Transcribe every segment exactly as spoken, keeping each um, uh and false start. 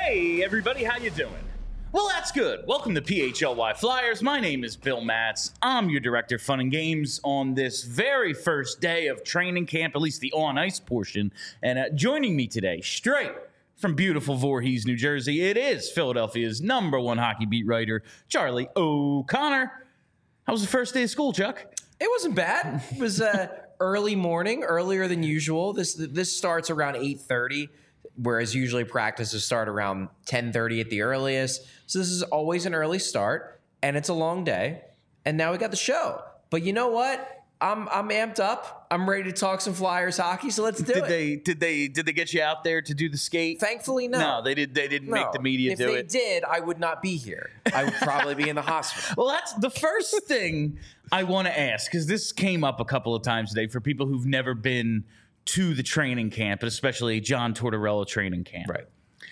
Hey, everybody, how you doing? Well, that's good. Welcome to P H L Y Flyers. My name is Bill Matz. I'm your director of fun and games on this very first day of training camp, at least the on-ice portion. And uh, joining me today, straight from beautiful Voorhees, New Jersey, it is Philadelphia's number one hockey beat writer, Charlie O'Connor. How was the first day of school, Chuck? It wasn't bad. It was uh, early morning, earlier than usual. This this starts around eight thirty. Whereas usually practices start around ten thirty at the earliest. So this is always an early start, and it's a long day. And now we got the show. But you know what? I'm I'm amped up. I'm ready to talk some Flyers hockey, so let's do did it. They did they did they get you out there to do the skate? Thankfully, no. No, they did. They didn't no. make the media if do it. it. If they did, I would not be here. I would probably be in the hospital. Well, that's the first thing I want to ask, because this came up a couple of times today for people who've never been to the training camp, especially John Tortorella training camp. Right.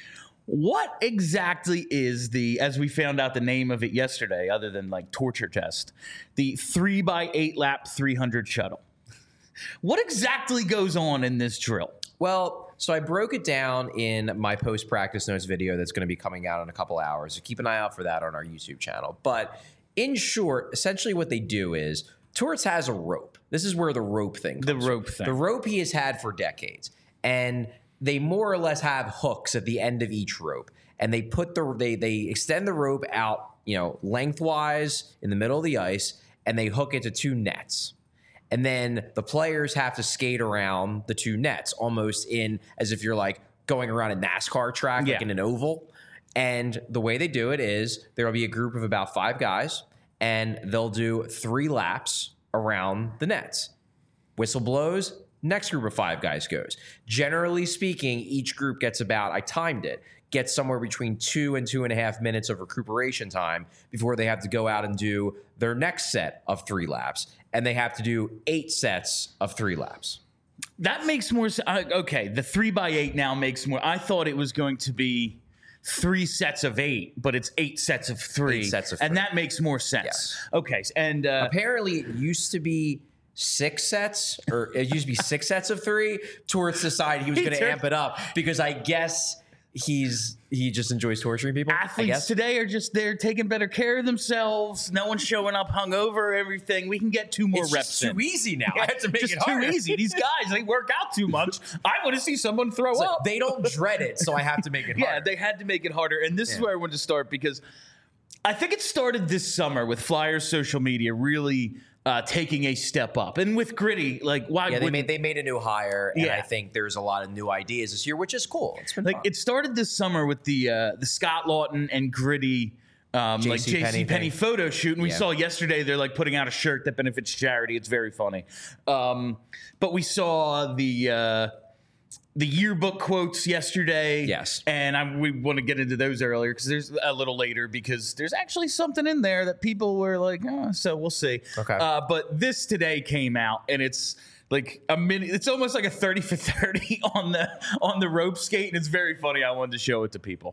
What exactly is the, as we found out the name of it yesterday, other than like torture test, the three by eight lap three hundred shuttle? What exactly goes on in this drill? Well, so I broke it down in my post-practice notes video that's going to be coming out in a couple hours. So keep an eye out for that on our YouTube channel. But in short, essentially what they do is Torts has a rope. This is where the rope thing comes The rope from. thing. The rope he has had for decades. And they more or less have hooks at the end of each rope. And they put the they they extend the rope out, you know, lengthwise in the middle of the ice, and they hook it to two nets. And then the players have to skate around the two nets, almost in as if you're like going around a NASCAR track, Yeah. like in an oval. And the way they do it is there will be a group of about five guys, and they'll do three laps around the nets. Whistle blows, next group of five guys goes. Generally speaking, each group gets about, I timed it, gets somewhere between two and two and a half minutes of recuperation time before they have to go out and do their next set of three laps. And they have to do eight sets of three laps. That makes more sense. Uh, okay, the three by eight now makes more. I thought it was going to be three sets of eight, but it's eight sets of three. Eight sets of and three. that makes more sense. Yes. Okay, and uh, Apparently, it used to be six sets, or it used to be six sets of three. Torts decided he was He going to turned- amp it up because I guess he's he just enjoys torturing people. I athletes guess. today are just they're taking better care of themselves. No one's showing up hungover. Everything. We can get two more It's reps just too in. easy now. I have to make just it too harder. easy. These guys, they work out too much. I want to see someone throw So up. they don't dread it, so I have to make it Yeah, harder. they had to make it harder. And this is Yeah. where I wanted to start, because I think it started this summer with Flyers social media really uh, taking a step up. And with Gritty, like, why Yeah, they would made they made a new hire, and Yeah. I think there's a lot of new ideas this year, which is cool. It's been like fun. it started this summer with the uh, the Scott Lawton and Gritty um, like J C J C Penney Penney thing. photo shoot, and we Yeah. saw yesterday they're like putting out a shirt that benefits charity. It's very funny. Um, but we saw the uh, the yearbook quotes yesterday. Yes. and I, we want to get into those earlier because there's a little later because there's actually something in there that people were like, oh, so we'll see. Okay. Uh, but this today came out, and it's like a minute. It's almost like a thirty for thirty on the on the rope skate, and it's very funny. I wanted to show it to people.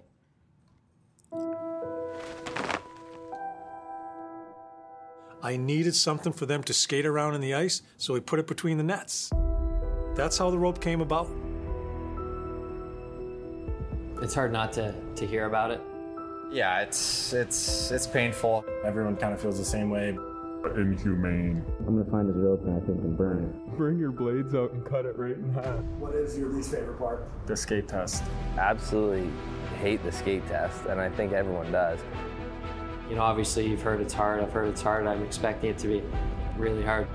I needed something for them to skate around in the ice, so we put it between the nets. That's how the rope came about. It's hard not to, to hear about it. Yeah, it's it's it's painful. Everyone kind of feels the same way. Inhumane. I'm gonna find his rope and I think and burn it. Bring your blades out and cut it right in half. What is your least favorite part? The skate test. Absolutely hate the skate test, and I think everyone does. You know, obviously you've heard it's hard, I've heard it's hard, I'm expecting it to be really hard.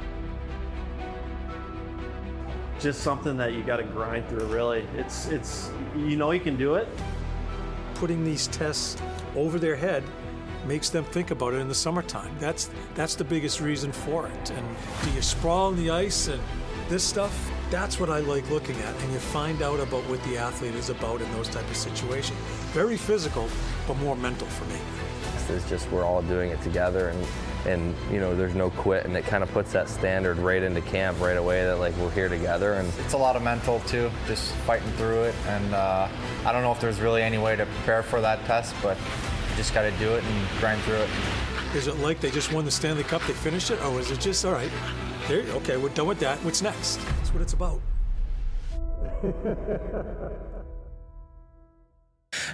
Just something that you gotta grind through, really. It's, it's, you know you can do it. Putting these tests over their head makes them think about it in the summertime. That's that's the biggest reason for it. And do you sprawl on the ice and this stuff? That's what I like looking at. And you find out about what the athlete is about in those type of situations. Very physical, but more mental for me. It's just we're all doing it together, and and you know there's no quit, and it kind of puts that standard right into camp right away that like we're here together. And It's a lot of mental too, just fighting through it. And uh, I don't know if there's really any way to prepare for that test, but you just got to do it and grind through it. Is it like they just won the Stanley Cup, they finished it? Or is it just, all right, there, okay, we're done with that. What's next? That's what it's about.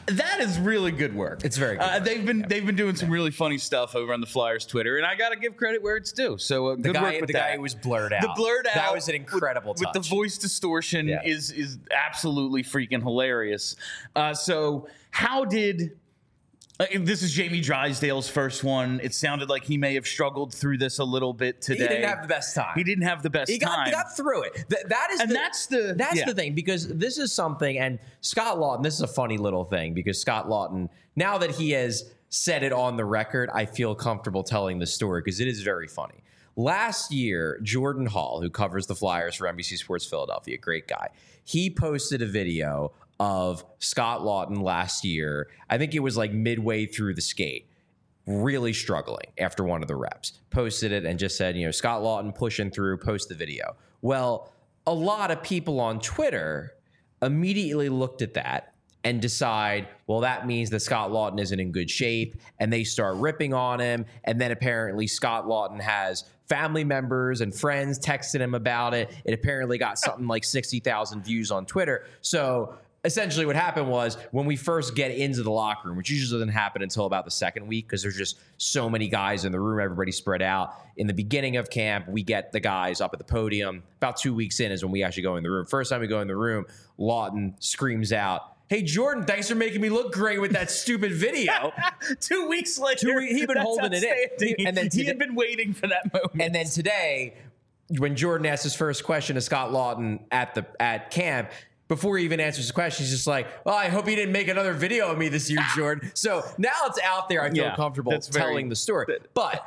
That is really good work. It's very good. Uh, work. they've been yeah. they've been doing some really funny stuff over on the Flyers Twitter, and I got to give credit where it's due. So uh, the good guy, work with the that. guy who was blurred out. The blurred out. That was an incredible with, touch. with the voice distortion Yeah. is is absolutely freaking hilarious. Uh, so how did? Uh, this is Jamie Drysdale's first one. It sounded like he may have struggled through this a little bit today. He didn't have the best time. He didn't have the best He got, time. he got through it. Th- that is And the, that's the- that's yeah. the thing, because this is something, and Scott Lawton, this is a funny little thing, because Scott Lawton, now that he has said it on the record, I feel comfortable telling the story because it is very funny. Last year, Jordan Hall, who covers the Flyers for N B C Sports Philadelphia, great guy, he posted a video of Scott Lawton last year. I think it was like midway through the skate, really struggling after one of the reps. Posted it and just said, you know, Scott Lawton pushing through, post the video. Well, a lot of people on Twitter immediately looked at that and decide, well, that means that Scott Lawton isn't in good shape, and they start ripping on him. And then apparently Scott Lawton has family members and friends texting him about it. It apparently got something like sixty thousand views on Twitter. So essentially what happened was, when we first get into the locker room, which usually doesn't happen until about the second week because there's just so many guys in the room, everybody spread out. In the beginning of camp, we get the guys up at the podium. About two weeks in is when we actually go in the room. First time we go in the room, Lawton screams out, "Hey, Jordan, thanks for making me look great with that stupid video." Two weeks later, Two, he'd been that's holding it in. outstanding. And then he today, had been waiting for that moment. and then today, when Jordan asked his first question to Scott Lawton at the at camp, before he even answers his question, he's just like, "Well, I hope he didn't make another video of me this year, Jordan." So now it's out there. I feel Yeah, comfortable that's very- telling the story. But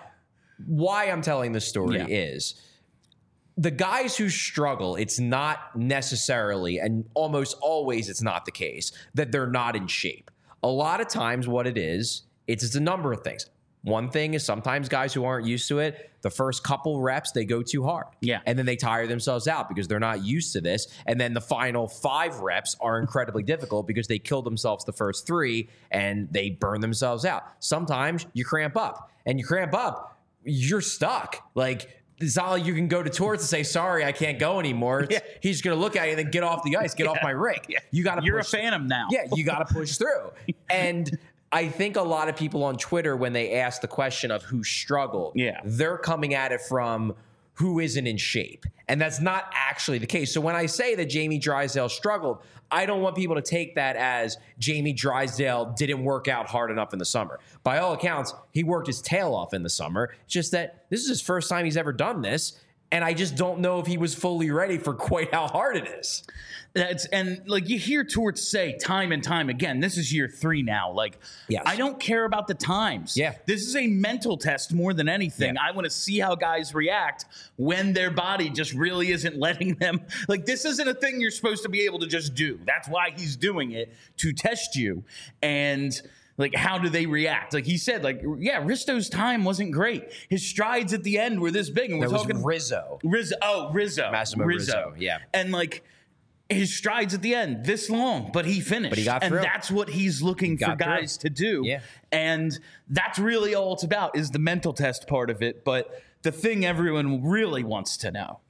why I'm telling the story Yeah. is the guys who struggle, it's not necessarily, and almost always it's not the case, that they're not in shape. A lot of times what it is, it's, it's a number of things. One thing is sometimes guys who aren't used to it, the first couple reps, they go too hard. Yeah. And then they tire themselves out because they're not used to this. And then the final five reps are incredibly difficult because they kill themselves the first three and they burn themselves out. Sometimes you cramp up, and you cramp up, you're stuck. Like, it's not like you can go to Torts and say, "Sorry, I can't go anymore." It's, Yeah. He's going to look at you and then get off the ice, get Yeah. off my rink. Yeah. You got to You're push a phantom now. Yeah, you got to push through. And I think a lot of people on Twitter, when they ask the question of who struggled, Yeah. they're coming at it from who isn't in shape. And that's not actually the case. So when I say that Jamie Drysdale struggled, I don't want people to take that as Jamie Drysdale didn't work out hard enough in the summer. By all accounts, he worked his tail off in the summer. It's just that this is his first time he's ever done this. And I just don't know if he was fully ready for quite how hard it is. That's and like you hear Torts say time and time again, this is year three now. Like, Yes. I don't care about the times. Yeah. This is a mental test more than anything. Yeah. I want to see how guys react when their body just really isn't letting them. Like, this isn't a thing you're supposed to be able to just do. That's why he's doing it, to test you. And like, how do they react? Like he said, like, yeah, Risto's time wasn't great. His strides at the end were this big. And we're That was talking Rizzo. Rizzo. Oh, Rizzo. Massimo Rizzo, yeah. And like his strides at the end, this long, but he finished. But he got and through. that's what he's looking for got through. guys to do. Yeah. And that's really all it's about, is the mental test part of it. But the thing everyone really wants to know,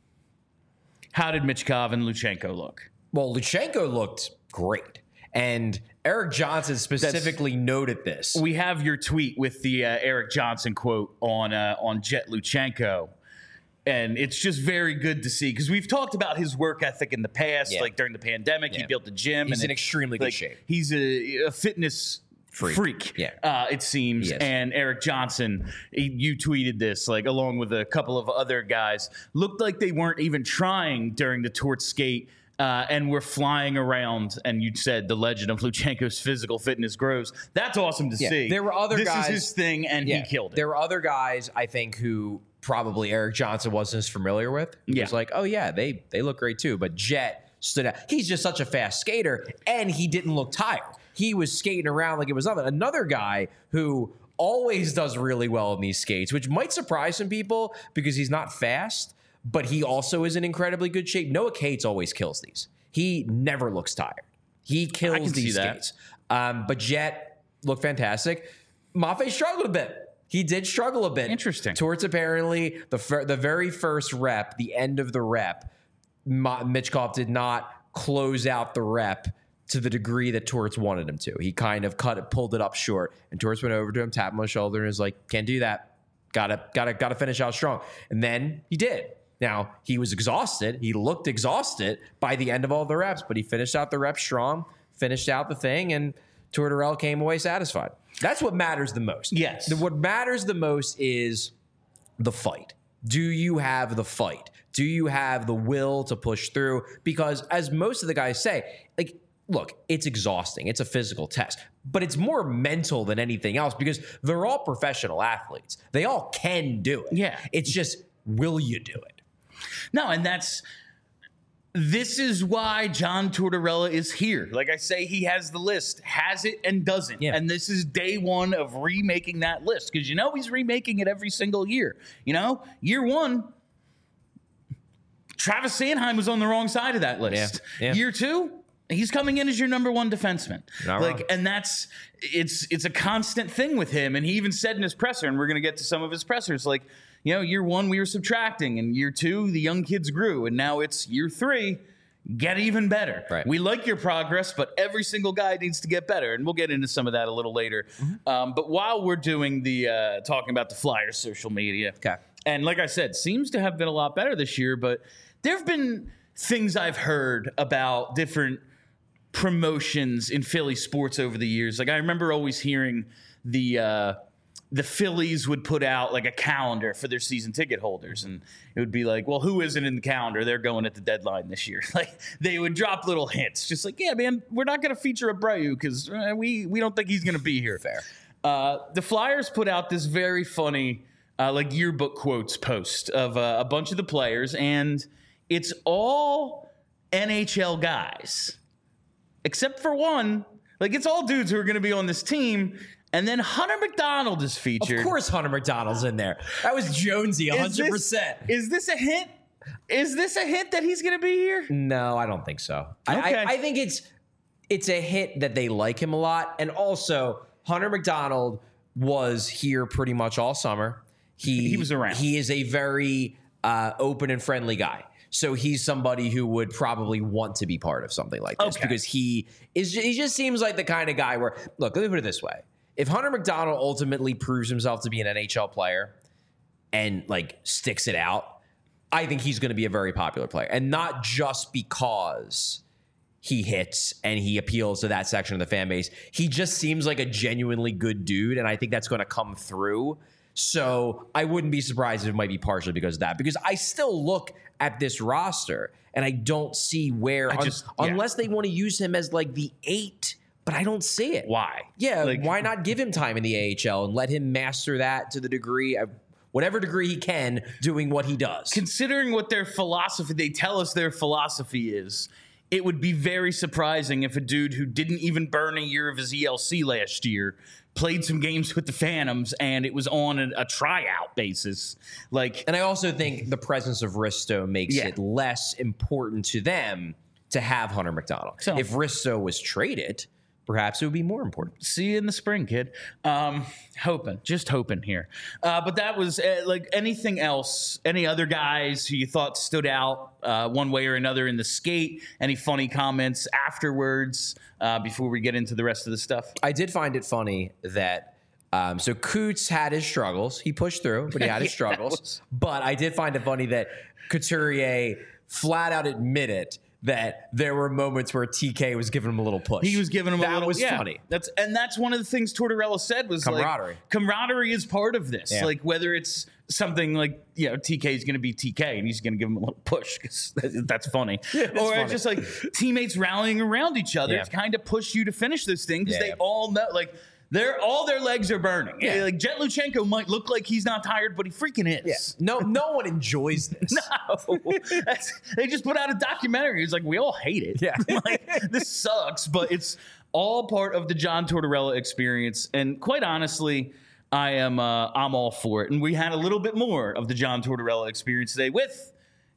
how did Michkov and Luchenko look? Well, Luchenko looked great. And Eric Johnson specifically That's, noted this. We have your tweet with the uh, Eric Johnson quote on uh, on Jet Luchenko. And it's just very good to see, because we've talked about his work ethic in the past, yeah. like during the pandemic, yeah. he built the gym. He's and in it, extremely like, good shape. He's a, a fitness freak, freak yeah. uh, it seems. And Eric Johnson, he, you tweeted this, like along with a couple of other guys, looked like they weren't even trying during the Torts skate. Uh, and we're flying around, and you said the legend of Luchenko's physical fitness grows. That's awesome to yeah. see. There were other this guys. This is his thing, and yeah. he killed it. There were other guys, I think, who probably Eric Johnson wasn't as familiar with. He yeah. was like, oh, yeah, they they look great too. But Jet stood out. He's just such a fast skater, and he didn't look tired. He was skating around like it was nothing. Another guy who always does really well in these skates, which might surprise some people because he's not fast, but he also is in incredibly good shape. Noah Cates always kills these. He never looks tired. He kills these skates. Um, but Jet looked fantastic. Maffei struggled a bit. He did struggle a bit. Interesting. Towards apparently the fir- the very first rep, the end of the rep, Ma- Michkov did not close out the rep to the degree that Torts wanted him to. He kind of cut it, pulled it up short, and Torts went over to him, tapped him on the shoulder, and was like, "Can't do that. Gotta, gotta, gotta finish out strong." And then he did. Now he was exhausted. He looked exhausted by the end of all the reps, but he finished out the reps strong, finished out the thing, and Tortorella came away satisfied. That's what matters the most. Yes. What matters the most is the fight. Do you have the fight? Do you have the will to push through? Because as most of the guys say, like, look, it's exhausting. It's a physical test, but it's more mental than anything else because they're all professional athletes. They all can do it. Yeah. It's just, will you do it? No, and that's this is why John Tortorella is here. Like I say, he has the list, has it and doesn't. Yeah. And this is day one of remaking that list because you know he's remaking it every single year. You know, year one, Travis Sanheim was on the wrong side of that list. Yeah. Yeah. Year two, he's coming in as your number one defenseman. Not like, wrong. and that's it's it's a constant thing with him. And he even said in his presser, and we're gonna get to some of his pressers, like, you know, year one we were subtracting, and year two the young kids grew, and now it's year three. Get even better. Right. We like your progress, but every single guy needs to get better, and we'll get into some of that a little later. Mm-hmm. Um, but while we're doing the uh, talking about the Flyers social media, okay, and like I said, seems to have been a lot better this year, but there have been things I've heard about different promotions in Philly sports over the years. Like I remember always hearing the uh, the Phillies would put out like a calendar for their season ticket holders, and it would be like, well, who isn't in the calendar? They're going at the deadline this year. Like they would drop little hints, just like, yeah, man, we're not going to feature Abreu because uh, we we don't think he's going to be here. Fair. Uh, the Flyers put out this very funny uh, like yearbook quotes post of uh, a bunch of the players, and it's all N H L guys. Except for one, like it's all dudes who are going to be on this team, and then Hunter McDonald is featured. Of course Hunter McDonald's in there. That was Jonesy, one hundred percent. Is this, is this a hint? Is this a hint that he's going to be here? No, I don't think so. Okay. I, I, I think it's it's a hit that they like him a lot, and also Hunter McDonald was here pretty much all summer. He he was around. He is a very uh, open and friendly guy. So he's somebody who would probably want to be part of something like this okay. because he is. He just seems like the kind of guy where, look, let me put it this way: if Hunter McDonald ultimately proves himself to be an N H L player and like sticks it out, I think he's going to be a very popular player, and not just because he hits and he appeals to that section of the fan base. He just seems like a genuinely good dude, and I think that's going to come through. So I wouldn't be surprised if it might be partially because of that, because I still look at this roster and I don't see where, un- just, yeah. unless they want to use him as like the eight, but I don't see it. Why? Yeah, Like- why not give him time in the A H L and let him master that to the degree of whatever degree he can, doing what he does. Considering what their philosophy, they tell us their philosophy is, it would be very surprising if a dude who didn't even burn a year of his E L C last year played some games with the Phantoms and it was on a, a tryout basis. Like, and I also think the presence of Risto makes Yeah. it less important to them to have Hunter McDonald. So- if Risto was traded, perhaps it would be more important. see you in the spring, kid. Um, hoping, just hoping here. Uh, but that was uh, like anything else, any other guys who you thought stood out uh, one way or another in the skate? Any funny comments afterwards uh, before we get into the rest of the stuff? I did find it funny that um, so Coots had his struggles. He pushed through, but he had his Yeah, struggles. that was- But I did find it funny that Couturier flat out admitted that there were moments where T K was giving him a little push. He was giving him that a little. was yeah, funny. That's and that's one of the things Tortorella said was Camaraderie. Like, camaraderie is part of this. Yeah. Like whether it's something like you know T K is going to be T K and he's going to give him a little push because that's funny, or funny. just like teammates rallying around each other Yeah. to kind of push you to finish this thing because Yeah, they yeah. all know like. They're all their legs are burning. Yeah. Like Jet Luchenko might look like he's not tired, but he freaking is. Yeah. No, no one enjoys this. No, That's, they just put out a documentary. It's like we all hate it. Yeah. Like this sucks, but it's all part of the John Tortorella experience. And quite honestly, I am uh, I'm all for it. And we had a little bit more of the John Tortorella experience today with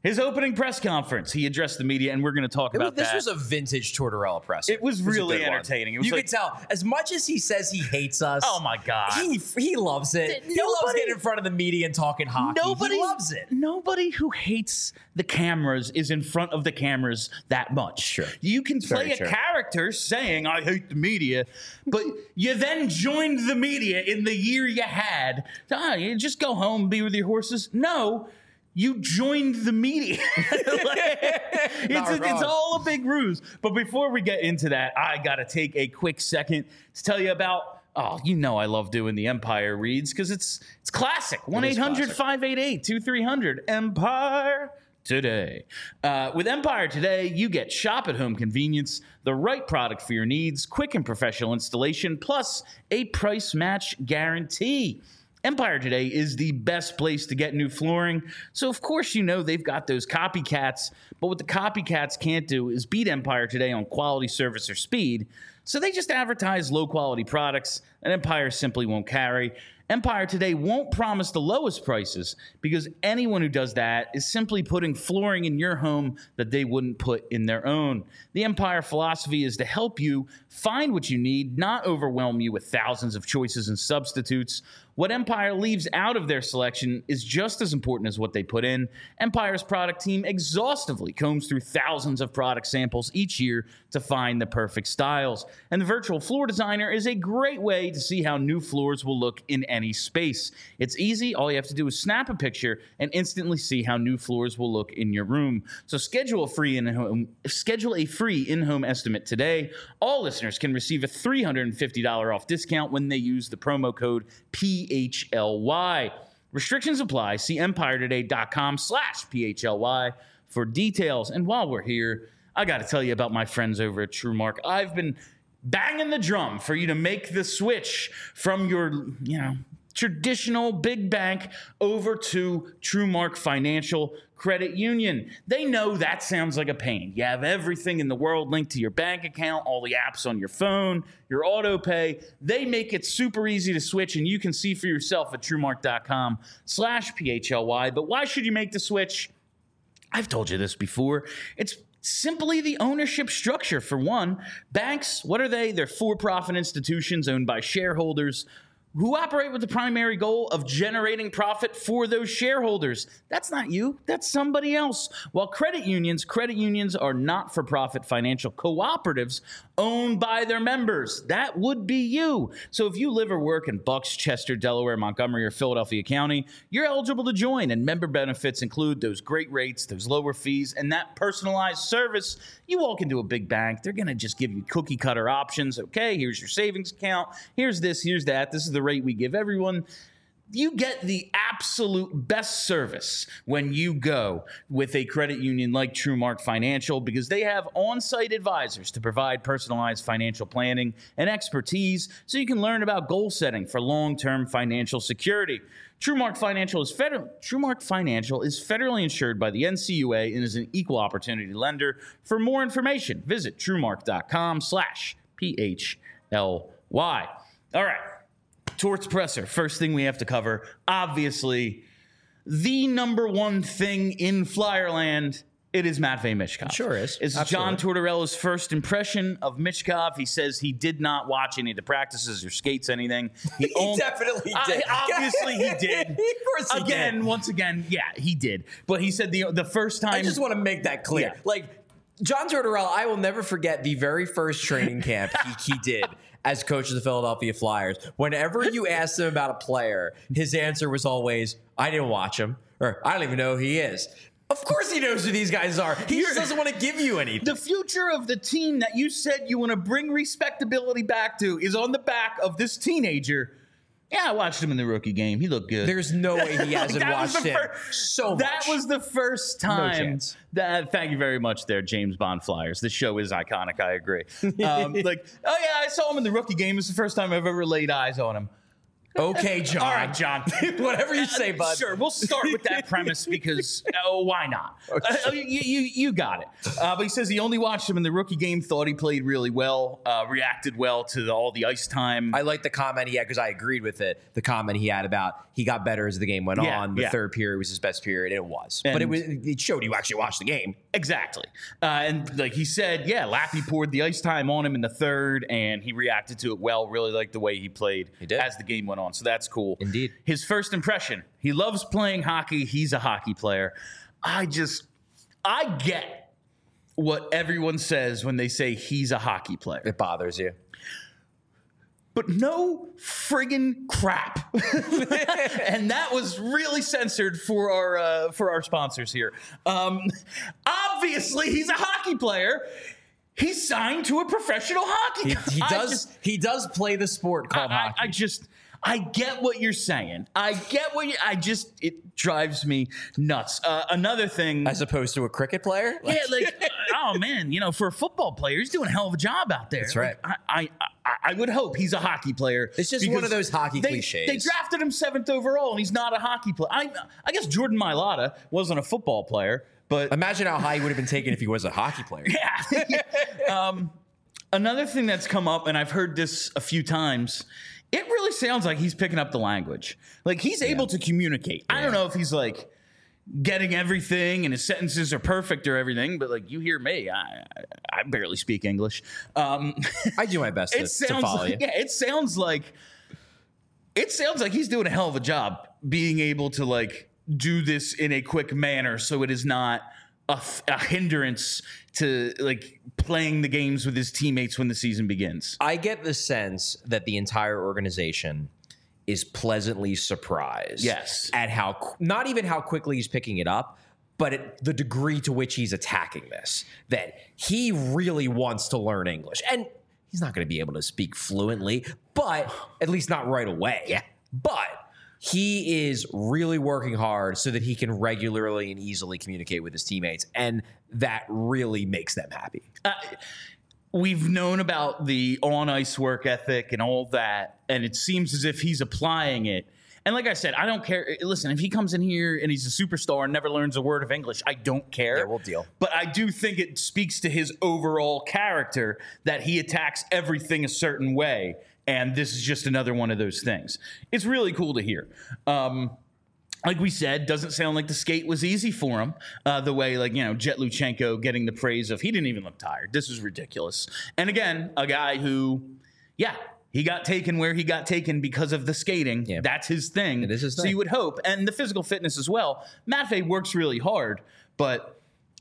His opening press conference, he addressed the media, and we're going to talk It was, about this that. was a vintage Tortorella presser. It was a really good one. entertaining. It was you like- could tell, as much as he says he hates us. Oh, my God. He he loves it. Did he loves nobody- getting in front of the media and talking hockey. Nobody he loves it. Nobody who hates the cameras is in front of the cameras that much. Sure. You can It's play very a true. character saying, I hate the media, but you then joined the media in the year you had. Ah, you just go home and be with your horses. No. You joined the media. Like, it's, a, it's all a big ruse. But before we get into that, I got to take a quick second to tell you about, oh, you know I love doing the Empire reads because it's it's classic. one eight hundred five eight eight two three zero zero Empire Today. Uh, with Empire Today, you get shop at home convenience, the right product for your needs, quick and professional installation, plus a price match guarantee. Empire Today is the best place to get new flooring. So, of course, you know they've got those copycats. But what the copycats can't do is beat Empire Today on quality, service, or speed. So they just advertise low-quality products that Empire simply won't carry. Empire Today won't promise the lowest prices because anyone who does that is simply putting flooring in your home that they wouldn't put in their own. The Empire philosophy is to help you find what you need, not overwhelm you with thousands of choices and substitutes. What Empire leaves out of their selection is just as important as what they put in. Empire's product team exhaustively combs through thousands of product samples each year to find the perfect styles. And the virtual floor designer is a great way to see how new floors will look in any space. It's easy. All you have to do is snap a picture and instantly see how new floors will look in your room. So schedule a free in-home schedule a free in-home estimate today. All listeners can receive a three hundred fifty dollars off discount when they use the promo code P H L Y. Restrictions apply. See empiretoday.com slash PHLY for details. And while we're here, I got to tell you about my friends over at TrueMark. I've been banging the drum for you to make the switch from your, you know, traditional big bank over to TrueMark Financial Credit Union. They know that sounds like a pain. You have everything in the world linked to your bank account, all the apps on your phone, your auto pay. They make it super easy to switch, and you can see for yourself at TrueMark.com slash PHLY. But why should you make the switch? I've told you this before. It's simply the ownership structure, for one. Banks, what are they? They're for-profit institutions owned by shareholders who operate with the primary goal of generating profit for those shareholders. That's not you. That's somebody else. While credit unions, credit unions are not-for-profit financial cooperatives owned by their members. That would be you. So if you live or work in Bucks, Chester, Delaware, Montgomery, or Philadelphia County, you're eligible to join, and member benefits include those great rates, those lower fees, and that personalized service. You walk into a big bank, they're going to just give you cookie-cutter options. Okay, here's your savings account. Here's this, here's that. This is the rate we give everyone. You get the absolute best service when you go with a credit union like TrueMark Financial because they have on-site advisors to provide personalized financial planning and expertise so you can learn about goal setting for long-term financial security. TrueMark Financial is federal. TrueMark Financial is federally insured by the N C U A and is an equal opportunity lender. For more information, visit TrueMark.com slash PHLY. All right. Torts presser. First thing we have to cover, obviously, the number one thing in Flyerland, it is Matvei Michkov. It sure is. It's John Tortorella's first impression of Michkov. He says he did not watch any of the practices or skates anything. He, he only, definitely did. Uh, obviously, he did. Of course he again, did. once again, yeah, he did. But he said the the first time. I just want to make that clear. Yeah. Like, John Tortorella, I will never forget the very first training camp he, he did as coach of the Philadelphia Flyers. Whenever you asked him about a player, his answer was always, I didn't watch him, or I don't even know who he is. Of course he knows who these guys are. He just doesn't want to give you anything. The future of the team that you said you want to bring respectability back to is on the back of this teenager. Yeah, I watched him in the rookie game. He looked good. There's no way he hasn't watched him first, so much. That was the first time. No chance. That, thank you very much there, James Bond Flyers. This show is iconic, I agree. Um, like, oh yeah, I saw him in the rookie game. It's the first time I've ever laid eyes on him. Okay, John. All right, John. Whatever you say, bud. Sure, we'll start with that premise because oh, why not? Uh, you, you you got it. Uh, but he says he only watched him in the rookie game, thought he played really well, uh, reacted well to the, all the ice time. I like the comment he had because I agreed with it. The comment he had about he got better as the game went Yeah, on. The yeah. third period was his best period. It was, And- but it was it showed you actually watched the game. Exactly. Uh, and like he said, yeah, Lappy poured the ice time on him in the third, and he reacted to it well. Really liked the way he played He did. as the game went on. So that's cool. Indeed. His first impression, he loves playing hockey. He's a hockey player. I just, I get what everyone says when they say he's a hockey player. It bothers you. But no friggin' crap. And that was really censored for our uh, for our sponsors here. Um, obviously, he's a hockey player. He's signed to a professional hockey. He, co- he I does. just- he does play the sport called I, hockey. I, I just, I get what you're saying. I get what you. I just, it drives me nuts. Uh, another thing, as opposed to a cricket player. yeah, like, uh, oh man, you know, for a football player, he's doing a hell of a job out there. That's right. Like, I, I, I, I would hope he's a hockey player. It's just one because of those hockey they, cliches. They drafted him seventh overall, and he's not a hockey player. I, I guess Jordan Mailata wasn't a football player, but Imagine how high he would have been taken if he was a hockey player. yeah. um, another thing that's come up, and I've heard this a few times, it really sounds like he's picking up the language. Like he's able to communicate. I don't know if he's like getting everything and his sentences are perfect or everything, but like you hear me, I I, I barely speak English. Um, I do my best to, it to sounds follow like, you. yeah, it sounds like it sounds like he's doing a hell of a job being able to like do this in a quick manner, so it is not a, f- a hindrance to like playing the games with his teammates when the season begins. I get the sense that the entire organization is pleasantly surprised. Yes. At how, qu- not even how quickly he's picking it up, but at the degree to which he's attacking this. That he really wants to learn English. And he's not going to be able to speak fluently, but at least not right away. Yeah. But he is really working hard so that he can regularly and easily communicate with his teammates. And that really makes them happy. Uh, we've known about the on-ice work ethic and all that, and it seems as if he's applying it. And like I said, I don't care. Listen, if he comes in here and he's a superstar and never learns a word of English, I don't care. Yeah, we'll deal. But I do think it speaks to his overall character that he attacks everything a certain way. And this is just another one of those things. It's really cool to hear. Um, like we said, doesn't sound like the skate was easy for him. Uh, the way, like, you know, Jet Luchenko getting the praise of, he didn't even look tired. This is ridiculous. And again, a guy who, yeah, he got taken where he got taken because of the skating. Yeah. That's his thing. It is his so thing. you would hope. And the physical fitness as well. Matvey works really hard, but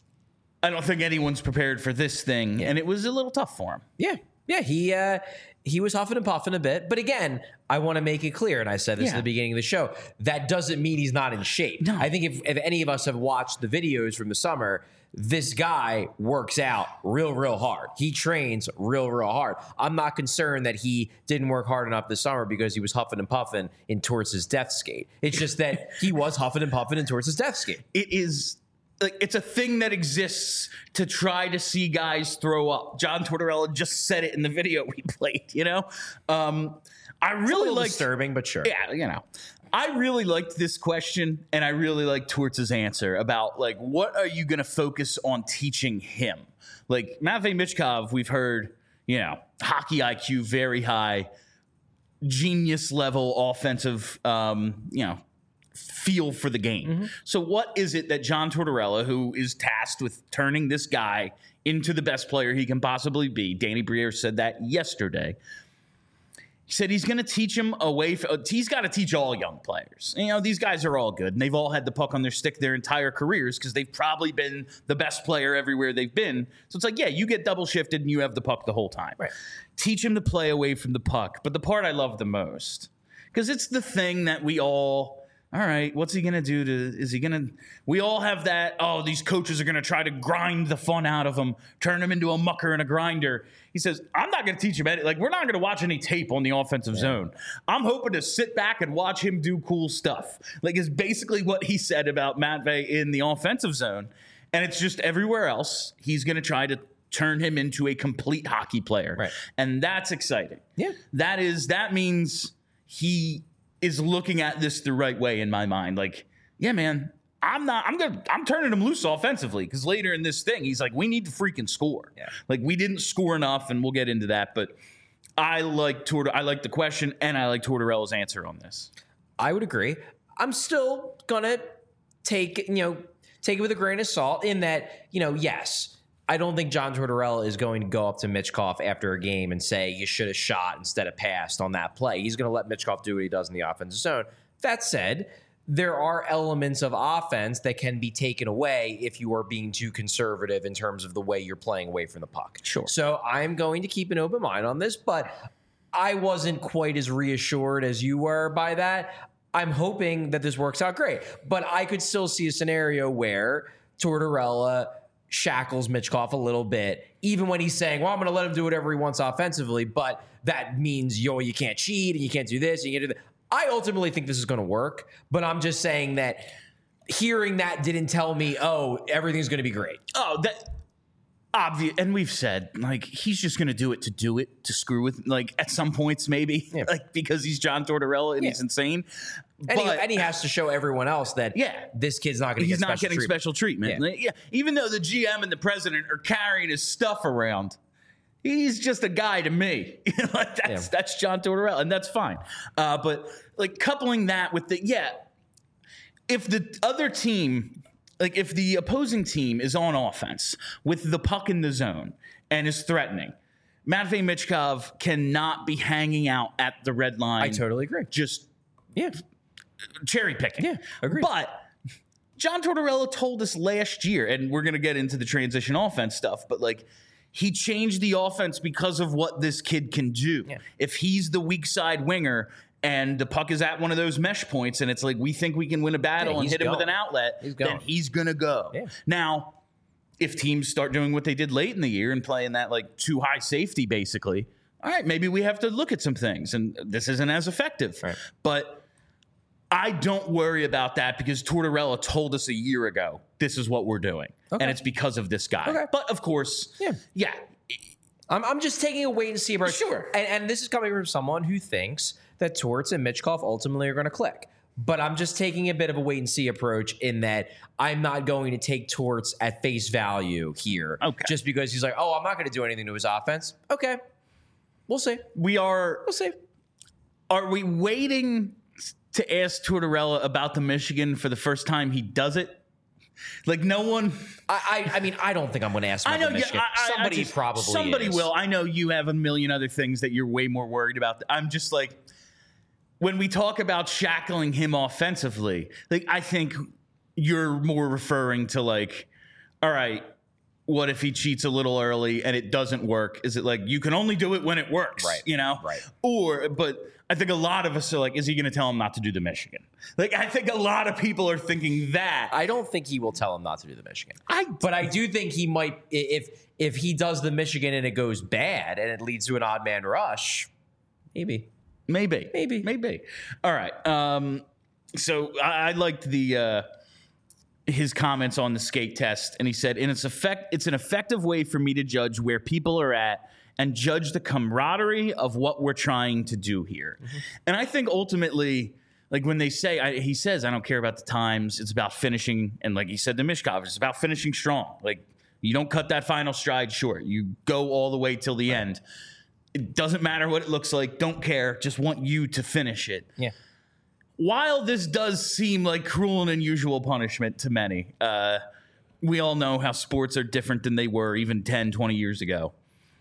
I don't think anyone's prepared for this thing. And it was a little tough for him. Yeah. Yeah, he uh, he was huffing and puffing a bit. But again, I want to make it clear, and I said this Yeah. at the beginning of the show, that doesn't mean he's not in shape. No. I think if, if any of us have watched the videos from the summer, this guy works out real, real hard. He trains real, real hard. I'm not concerned that he didn't work hard enough this summer because he was huffing and puffing in towards his death skate. It's just that he was huffing and puffing in towards his death skate. It is like it's a thing that exists to try to see guys throw up. John Tortorella just said it in the video we played, you know? Um, I It's a really little like disturbing, but sure. Yeah, you know. I really liked this question, and I really liked Torts' answer about, like, what are you going to focus on teaching him? Like, Matvey Michkov, we've heard, you know, hockey I Q very high, genius level offensive, um, you know, feel for the game. Mm-hmm. So what is it that John Tortorella, who is tasked with turning this guy into the best player he can possibly be, Danny Briere said that yesterday, he said he's going to teach him away. From, he's got to teach all young players. You know, these guys are all good, and they've all had the puck on their stick their entire careers because they've probably been the best player everywhere they've been. So it's like, yeah, you get double shifted and you have the puck the whole time. Right. Teach him to play away from the puck. But the part I love the most, because it's the thing that we all... All right, what's he going to do to, is he going to, we all have that, oh, these coaches are going to try to grind the fun out of him, turn him into a mucker and a grinder. He says, I'm not going to teach him any, like, we're not going to watch any tape on the offensive yeah. zone. I'm hoping to sit back and watch him do cool stuff. Like, is basically what he said about Matvey in the offensive zone. And it's just everywhere else, he's going to try to turn him into a complete hockey player. Right. And that's exciting. Yeah. That is, that means he is looking at this the right way in my mind. Like, yeah, man, I'm not, I'm going to, I'm turning him loose offensively because later in this thing, he's like, we need to freaking score. Yeah. Like, we didn't score enough, and we'll get into that. But I like Tort- I like the question, and I like Tortorella's answer on this. I would agree. I'm still going to take, you know, take it with a grain of salt in that, you know, yes, I don't think John Tortorella is going to go up to Mitchkoff after a game and say you should have shot instead of passed on that play. He's going to let Mitchkoff do what he does in the offensive zone. That said, there are elements of offense that can be taken away if you are being too conservative in terms of the way you're playing away from the puck. Sure. So I'm going to keep an open mind on this, but I wasn't quite as reassured as you were by that. I'm hoping that this works out great, but I could still see a scenario where Tortorella shackles Mitchkoff a little bit, even when he's saying, well, I'm going to let him do whatever he wants offensively, but that means, yo, you can't cheat and you can't do this and you can't do that. I ultimately think this is going to work, but I'm just saying that hearing that didn't tell me, oh, everything's going to be great. Oh, that obvious. And we've said, like, he's just going to do it to do it, to screw with, like, at some points maybe, yeah. like, because he's John Tortorella and yeah. he's insane. And, but, he, and he has to show everyone else that yeah, this kid's not going to get he's special not getting treatment. special treatment. Yeah. Like, yeah, even though the G M and the president are carrying his stuff around, he's just a guy to me. like that's yeah. that's John Tortorella, and that's fine. Uh, but like coupling that with the yeah, if the other team, like if the opposing team is on offense with the puck in the zone and is threatening, Matvei Michkov cannot be hanging out at the red line. I totally agree. Just yeah. cherry picking. Yeah, agree. But John Tortorella told us last year, and we're going to get into the transition offense stuff, but like he changed the offense because of what this kid can do. Yeah. If he's the weak side winger and the puck is at one of those mesh points and it's like we think we can win a battle yeah, and hit going. him with an outlet, he's then he's going to go. Yeah. Now, if teams start doing what they did late in the year and playing that like too high safety basically, all right, maybe we have to look at some things and this isn't as effective. Right. But I don't worry about that because Tortorella told us a year ago, this is what we're doing. Okay. And it's because of this guy. Okay. But of course, yeah. yeah. I'm, I'm just taking a wait and see approach. Sure. And, and this is coming from someone who thinks that Torts and Mitchkoff ultimately are going to click. But I'm just taking a bit of a wait and see approach in that I'm not going to take Torts at face value here. Okay. Just because he's like, oh, I'm not going to do anything to his offense. Okay. We'll see. We are. We'll see. Are we waiting to ask Tortorella about the Michigan for the first time he does it? Like no one. I I, I mean I don't think I'm going to ask him I about know. the Michigan. Yeah, I, I, somebody I just, probably. Somebody is. will. I know you have a million other things that you're way more worried about. I'm just like when we talk about shackling him offensively. Like I think you're more referring to like, all right, what if he cheats a little early and it doesn't work? Is it like you can only do it when it works? Right. You know. Right. Or but. I think a lot of us are like, is he going to tell him not to do the Michigan? Like, I think a lot of people are thinking that. I don't think he will tell him not to do the Michigan. I, but I do think he might, if if he does the Michigan and it goes bad and it leads to an odd man rush, maybe. Maybe. Maybe. Maybe. All right. Um, so I, I liked the uh, his comments on the skate test, and he said, in its effect, it's an effective way for me to judge where people are at and judge the camaraderie of what we're trying to do here. Mm-hmm. And I think ultimately, like when they say, I, he says, I don't care about the times. It's about finishing. And like he said to Mishkov, it's about finishing strong. Like you don't cut that final stride short. You go all the way till the end. It doesn't matter what it looks like. Don't care. Just want you to finish it. Yeah. While this does seem like cruel and unusual punishment to many, uh, we all know how sports are different than they were even ten, twenty years ago.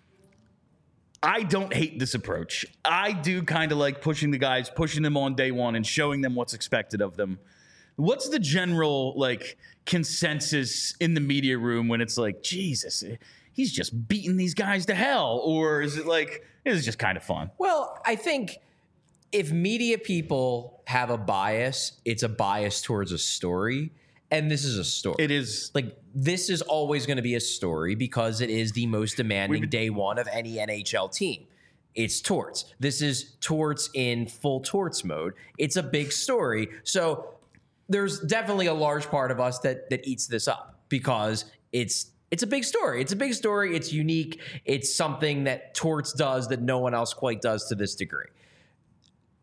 I don't hate this approach. I do kind of like pushing the guys, pushing them on day one and showing them what's expected of them. What's the general like consensus in the media room when it's like, Jesus, he's just beating these guys to hell? Or is it like, this is just kind of fun? Well, I think if media people have a bias, it's a bias towards a story. And this is a story. It is. Like, this is always going to be a story because it is the most demanding been, day one of any N H L team. It's Torts. This is Torts in full Torts mode. It's a big story. So there's definitely a large part of us that that eats this up because it's it's a big story. It's a big story. It's unique. It's something that Torts does that no one else quite does to this degree.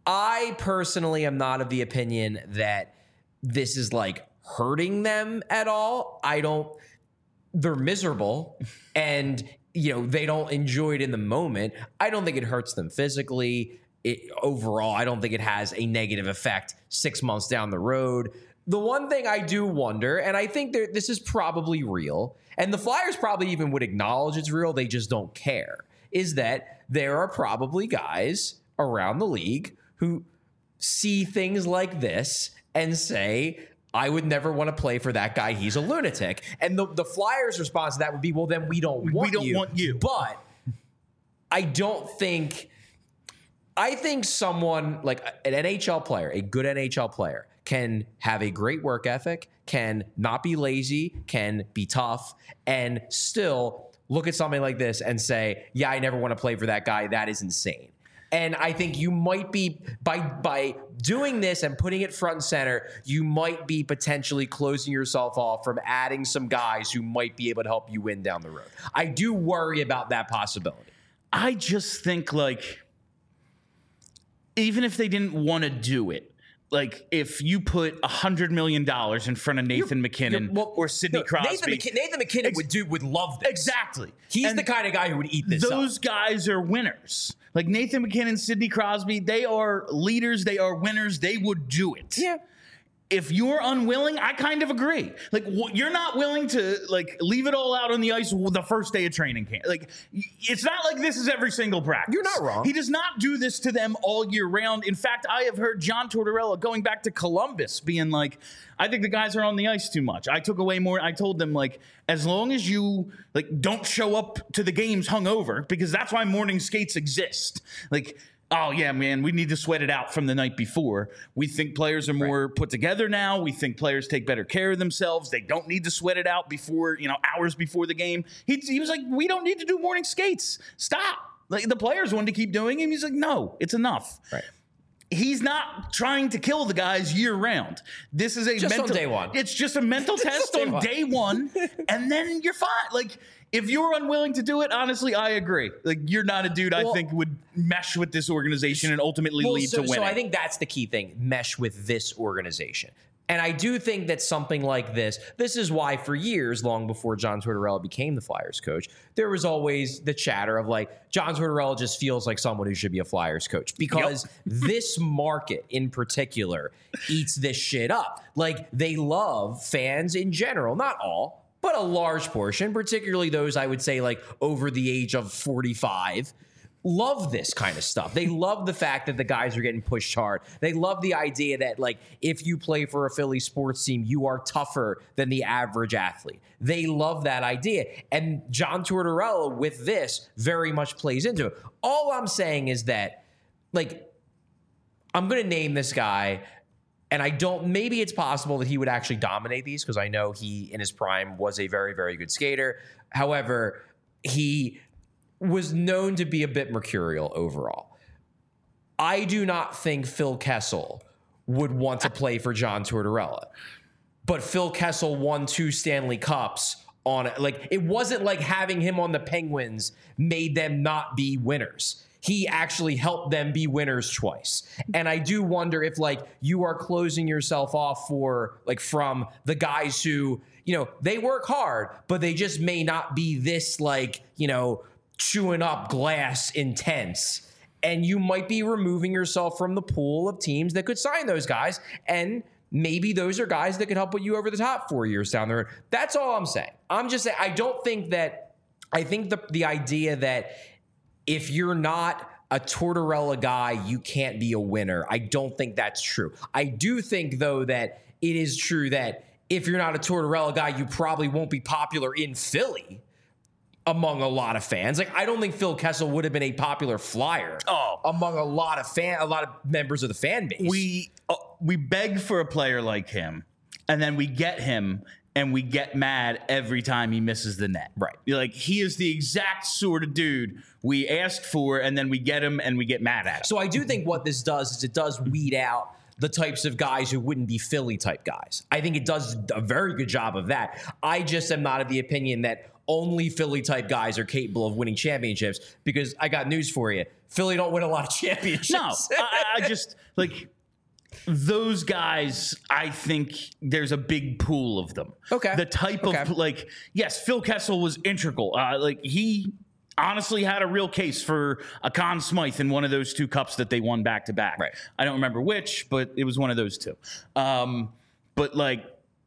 I personally am not of the opinion that this is like hurting them at all. I don't, they're miserable and, you know, they don't enjoy it in the moment. I don't think it hurts them physically. It, overall, I don't think it has a negative effect six months down the road. The one thing I do wonder, and I think that this is probably real, and the Flyers probably even would acknowledge it's real, they just don't care, is that there are probably guys around the league who see things like this and say, I would never want to play for that guy. He's a lunatic. And the, the Flyers' response to that would be, well, then we don't want we don't you. want you. But I don't think... I think someone like an N H L player, a good N H L player, can have a great work ethic, can not be lazy, can be tough, and still look at something like this and say, yeah, I never want to play for that guy. That is insane. And I think you might be, by by doing this and putting it front and center, you might be potentially closing yourself off from adding some guys who might be able to help you win down the road. I do worry about that possibility. I just think, like, even if they didn't want to do it, like if you put a hundred million dollars in front of Nathan you're, McKinnon you're, well, or Sidney no, Crosby, Nathan, McK- Nathan McKinnon ex- would do would love this. Exactly. He's and the kind of guy who would eat this. Those up. guys are winners. Like Nathan McKinnon, Sidney Crosby, they are leaders. They are winners. They would do it. Yeah. If you're unwilling, I kind of agree. Like, wh- you're not willing to, like, leave it all out on the ice the first day of training camp. Like, y- it's not like this is every single practice. You're not wrong. He does not do this to them all year round. In fact, I have heard John Tortorella going back to Columbus being like, I think the guys are on the ice too much. I took away more. I told them, like, as long as you, like, don't show up to the games hungover, because that's why morning skates exist. Like, oh, yeah, man, we need to sweat it out from the night before. We think players are more right. put together now. We think players take better care of themselves. They don't need to sweat it out before, you know, hours before the game. He, he was like, we don't need to do morning skates. Stop. Like, the players wanted to keep doing it. He's like, no, it's enough. Right. He's not trying to kill the guys year round. This is a just mental on day one. It's just a mental test on one. day one, and then you're fine. Like, if you're unwilling to do it, honestly, I agree. Like, you're not a dude well, I think would mesh with this organization and ultimately well, lead so, to winning. So I think that's the key thing, mesh with this organization. And I do think that something like this, this is why for years, long before John Tortorella became the Flyers coach, there was always the chatter of like, John Tortorella just feels like someone who should be a Flyers coach because yep. this market in particular eats this shit up. Like, they love fans in general, not all, but a large portion, particularly those I would say like over the age of forty-five, love this kind of stuff. They love the fact that the guys are getting pushed hard. They love the idea that, like, if you play for a Philly sports team, you are tougher than the average athlete. They love that idea. And John Tortorella, with this, very much plays into it. All I'm saying is that, like, I'm going to name this guy, and I don't, maybe it's possible that he would actually dominate these because I know he, in his prime, was a very, very good skater. However, he was known to be a bit mercurial overall. I do not think Phil Kessel would want to play for John Tortorella. But Phil Kessel won two Stanley Cups on it. Like, it wasn't like having him on the Penguins made them not be winners. He actually helped them be winners twice. And I do wonder if, like, you are closing yourself off for, like, from the guys who, you know, they work hard, but they just may not be this, like, you know, chewing up glass intense, and you might be removing yourself from the pool of teams that could sign those guys, and maybe those are guys that could help put you over the top four years down the road. That's all I'm saying. I'm just saying, I don't think that, I think the, the idea that if you're not a Tortorella guy, you can't be a winner, I don't think that's true. I do think, though, that it is true that if you're not a Tortorella guy, you probably won't be popular in Philly among a lot of fans. Like, I don't think Phil Kessel would have been a popular Flyer oh. among a lot of fan, a lot of members of the fan base. We uh, we beg for a player like him, and then we get him, and we get mad every time he misses the net. Right. You're like, he is the exact sort of dude we asked for, and then we get him, and we get mad at him. So I do think what this does is it does weed out the types of guys who wouldn't be Philly type guys. I think it does a very good job of that. I just am not of the opinion that only Philly type guys are capable of winning championships, because I got news for you. Philly don't win a lot of championships. No, I, I just like those guys. I think there's a big pool of them. Okay. The type Okay. of like, yes, Phil Kessel was integral. Uh, like he honestly had a real case for a Conn Smythe in one of those two cups that they won back to back. Right. I don't remember which, but it was one of those two. Um, but like,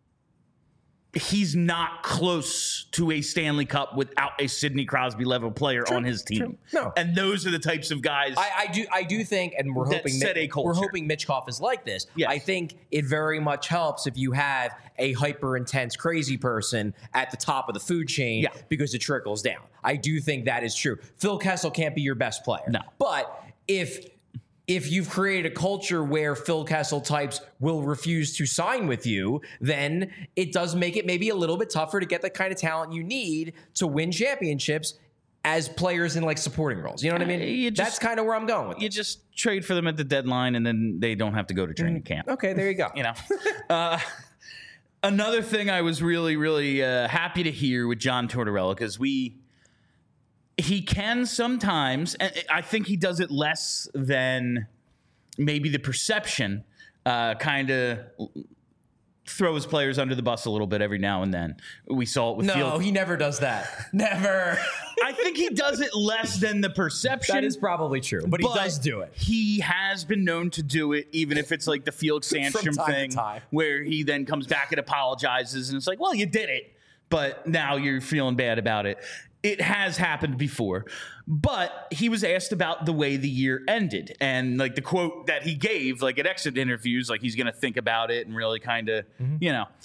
he's not close to a Stanley Cup without a Sidney Crosby level player True, on his team. true. No. And those are the types of guys. I, I do, I do think, and we're That hoping set Mi- a culture. we're hoping Mitchkoff is like this. Yes. I think it very much helps if you have a hyper intense, crazy person at the top of the food chain, Yeah. because it trickles down. I do think that is true. Phil Kessel can't be your best player. No. But if if you've created a culture where Phil Kessel types will refuse to sign with you, then it does make it maybe a little bit tougher to get the kind of talent you need to win championships as players in like supporting roles. You know what I mean? Uh, you just- That's kind of where I'm going with you it. just trade for them at the deadline, and then they don't have to go to training camp. Okay, there you go. You know, uh, another thing I was really, really uh, happy to hear with John Tortorella, because we he can sometimes, and I think he does it less than maybe the perception, uh, kind of throw his players under the bus a little bit every now and then. We saw it with No, Field. he never does that. Never. I think he does it less than the perception. That is probably true, but, he does do it. He has been known to do it, even if it's like the Felix Sandstrom time to thing, time. where he then comes back and apologizes, and it's like, well, you did it, but now you're feeling bad about it. It has happened before, but he was asked about the way the year ended, and like the quote that he gave, like at exit interviews, like he's going to think about it and really kind of, Mm-hmm. you know.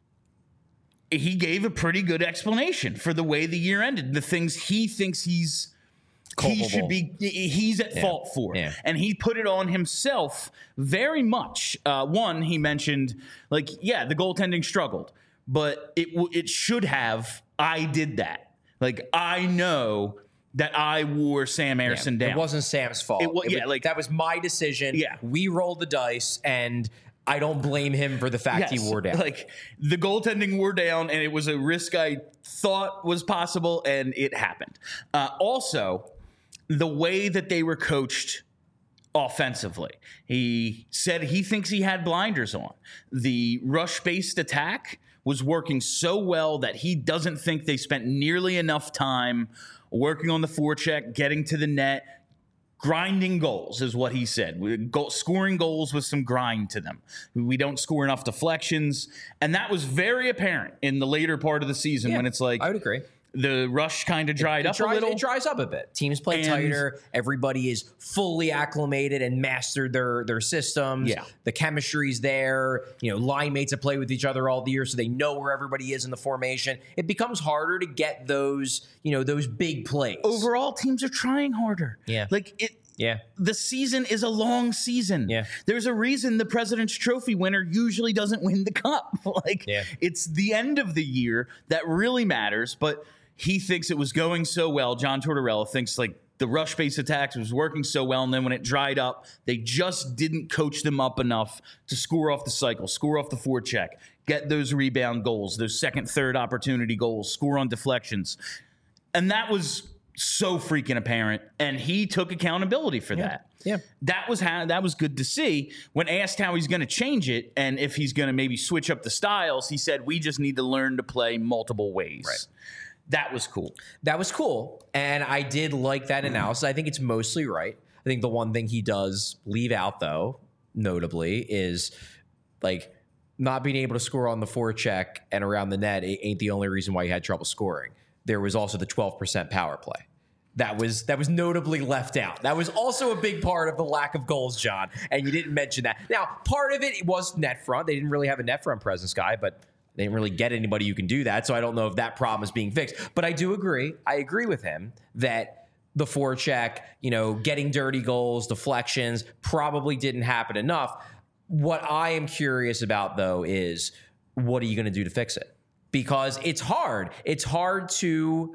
He gave a pretty good explanation for the way the year ended, the things he thinks he's he Culpable. should be he's at fault for, Yeah. and he put it on himself very much. Uh, one, he mentioned like, yeah, the goaltending struggled, but it w- it should have. I did that. Like I know that I wore Sam Ersson down. It wasn't Sam's fault. It wa- yeah, was- like- that was my decision. Yeah. We rolled the dice, and I don't blame him for the fact Yes, he wore down. Like the goaltending wore down, and it was a risk I thought was possible, and it happened. Uh, also, the way that they were coached offensively, he said he thinks he had blinders on. The rush-based attack was working so well that he doesn't think they spent nearly enough time working on the forecheck, getting to the net. Grinding goals is what he said. We, go, scoring goals with some grind to them. We don't score enough deflections. And that was very apparent in the later part of the season Yeah, when it's like I would agree. the rush kind of dried It up dries, a little. It dries up a bit. Teams play And- tighter. Everybody is fully acclimated and mastered their their systems. Yeah. The chemistry's there. You know, line mates have played with each other all the year, so they know where everybody is in the formation. It becomes harder to get those, you know, those big plays. Overall, teams are trying harder. Yeah. Like it. Yeah. The season is a long season. Yeah. There's a reason the President's Trophy winner usually doesn't win the cup. Like, Yeah. it's the end of the year that really matters. But he thinks it was going so well. John Tortorella thinks like the rush base attacks was working so well. And then when it dried up, they just didn't coach them up enough to score off the cycle, score off the forecheck, get those rebound goals, those second, third opportunity goals, score on deflections. And that was so freaking apparent, and he took accountability for that. Yeah. That was how that was good to see. When asked how he's going to change it and if he's going to maybe switch up the styles, he said, we just need to learn to play multiple ways. Right. That was cool. That was cool. And I did like that analysis. I think it's mostly right. I think the one thing he does leave out, though, notably, is like not being able to score on the forecheck and around the net ain't the only reason why he had trouble scoring. There was also the twelve percent power play. That was that was notably left out. That was also a big part of the lack of goals, John, and you didn't mention that. Now, part of it was net front. They didn't really have a net front presence guy, but they didn't really get anybody who can do that, so I don't know if that problem is being fixed. But I do agree. I agree with him that the forecheck, you know, getting dirty goals, deflections, probably didn't happen enough. What I am curious about, though, is what are you going to do to fix it? Because it's hard. It's hard to...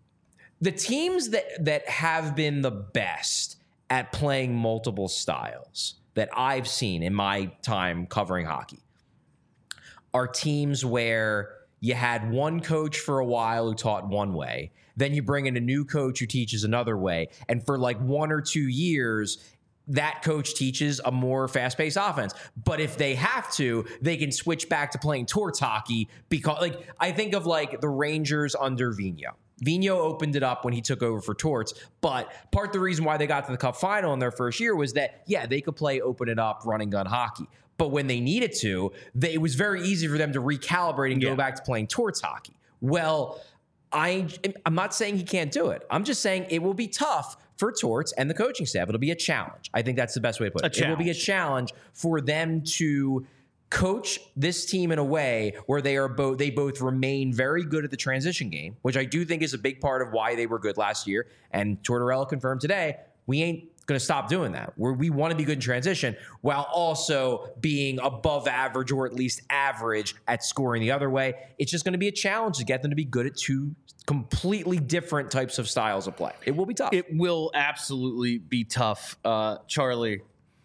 The teams that that have been the best at playing multiple styles that I've seen in my time covering hockey are teams where you had one coach for a while who taught one way. Then you bring in a new coach who teaches another way. And for like one or two years, that coach teaches a more fast-paced offense. But if they have to, they can switch back to playing Torts hockey because, like, I think of like the Rangers under Vigneault. Vigneault opened it up when he took over for Torts, but part of the reason why they got to the Cup final in their first year was that, yeah, they could play open it up, run and gun hockey. But when they needed to, they, it was very easy for them to recalibrate and yeah. go back to playing Torts hockey. Well, I, I'm not saying he can't do it. I'm just saying it will be tough for Torts and the coaching staff. It'll be a challenge. I think that's the best way to put it. It will be a challenge for them to coach this team in a way where they are both they both remain very good at the transition game, which I do think is a big part of why they were good last year. And Tortorella confirmed today, we ain't going to stop doing that. Where we want to be good in transition while also being above average or at least average at scoring the other way. It's just going to be a challenge to get them to be good at two completely different types of styles of play. It will be tough. It will absolutely be tough. Uh, Charlie,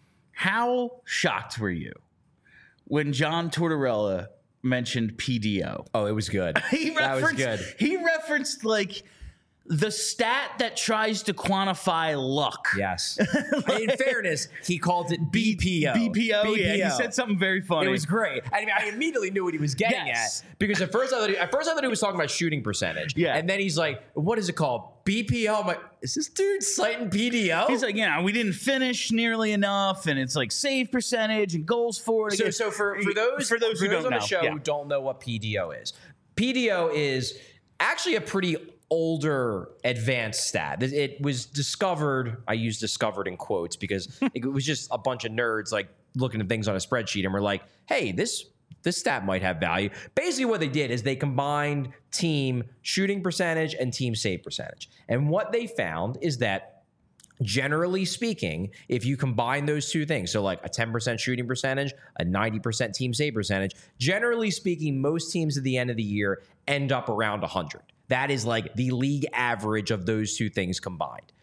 how shocked were you when John Tortorella mentioned P D O? Oh, it was good. he that was good. He referenced like the stat that tries to quantify luck. Yes. In fairness, he called it B P O. B P O, B P O. Yeah. He said something very funny. It was great. I mean, I immediately knew what he was getting yes. at because at first I thought he, at first I thought he was talking about shooting percentage. Yeah. And then he's like, "What is it called? B P O." I'm like, "Is this dude citing P D O?" He's like, "Yeah, we didn't finish nearly enough, and it's like save percentage and goals for it." So, so for for those for those for who those don't on know, the show yeah. who don't know what P D O is, P D O is actually a pretty older advanced stat. It was discovered, I use discovered in quotes because it was just a bunch of nerds like looking at things on a spreadsheet and we're like, hey, this this stat might have value. Basically what they did is they combined team shooting percentage and team save percentage. And what they found is that generally speaking, if you combine those two things, so like a ten percent shooting percentage, a ninety percent team save percentage, generally speaking, most teams at the end of the year end up around one hundred. That is like the league average of those two things combined.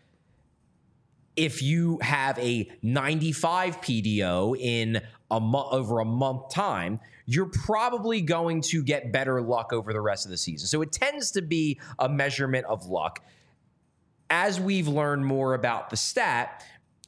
If you have a ninety-five P D O in a mo- over a month time, you're probably going to get better luck over the rest of the season. So it tends to be a measurement of luck. As we've learned more about the stat,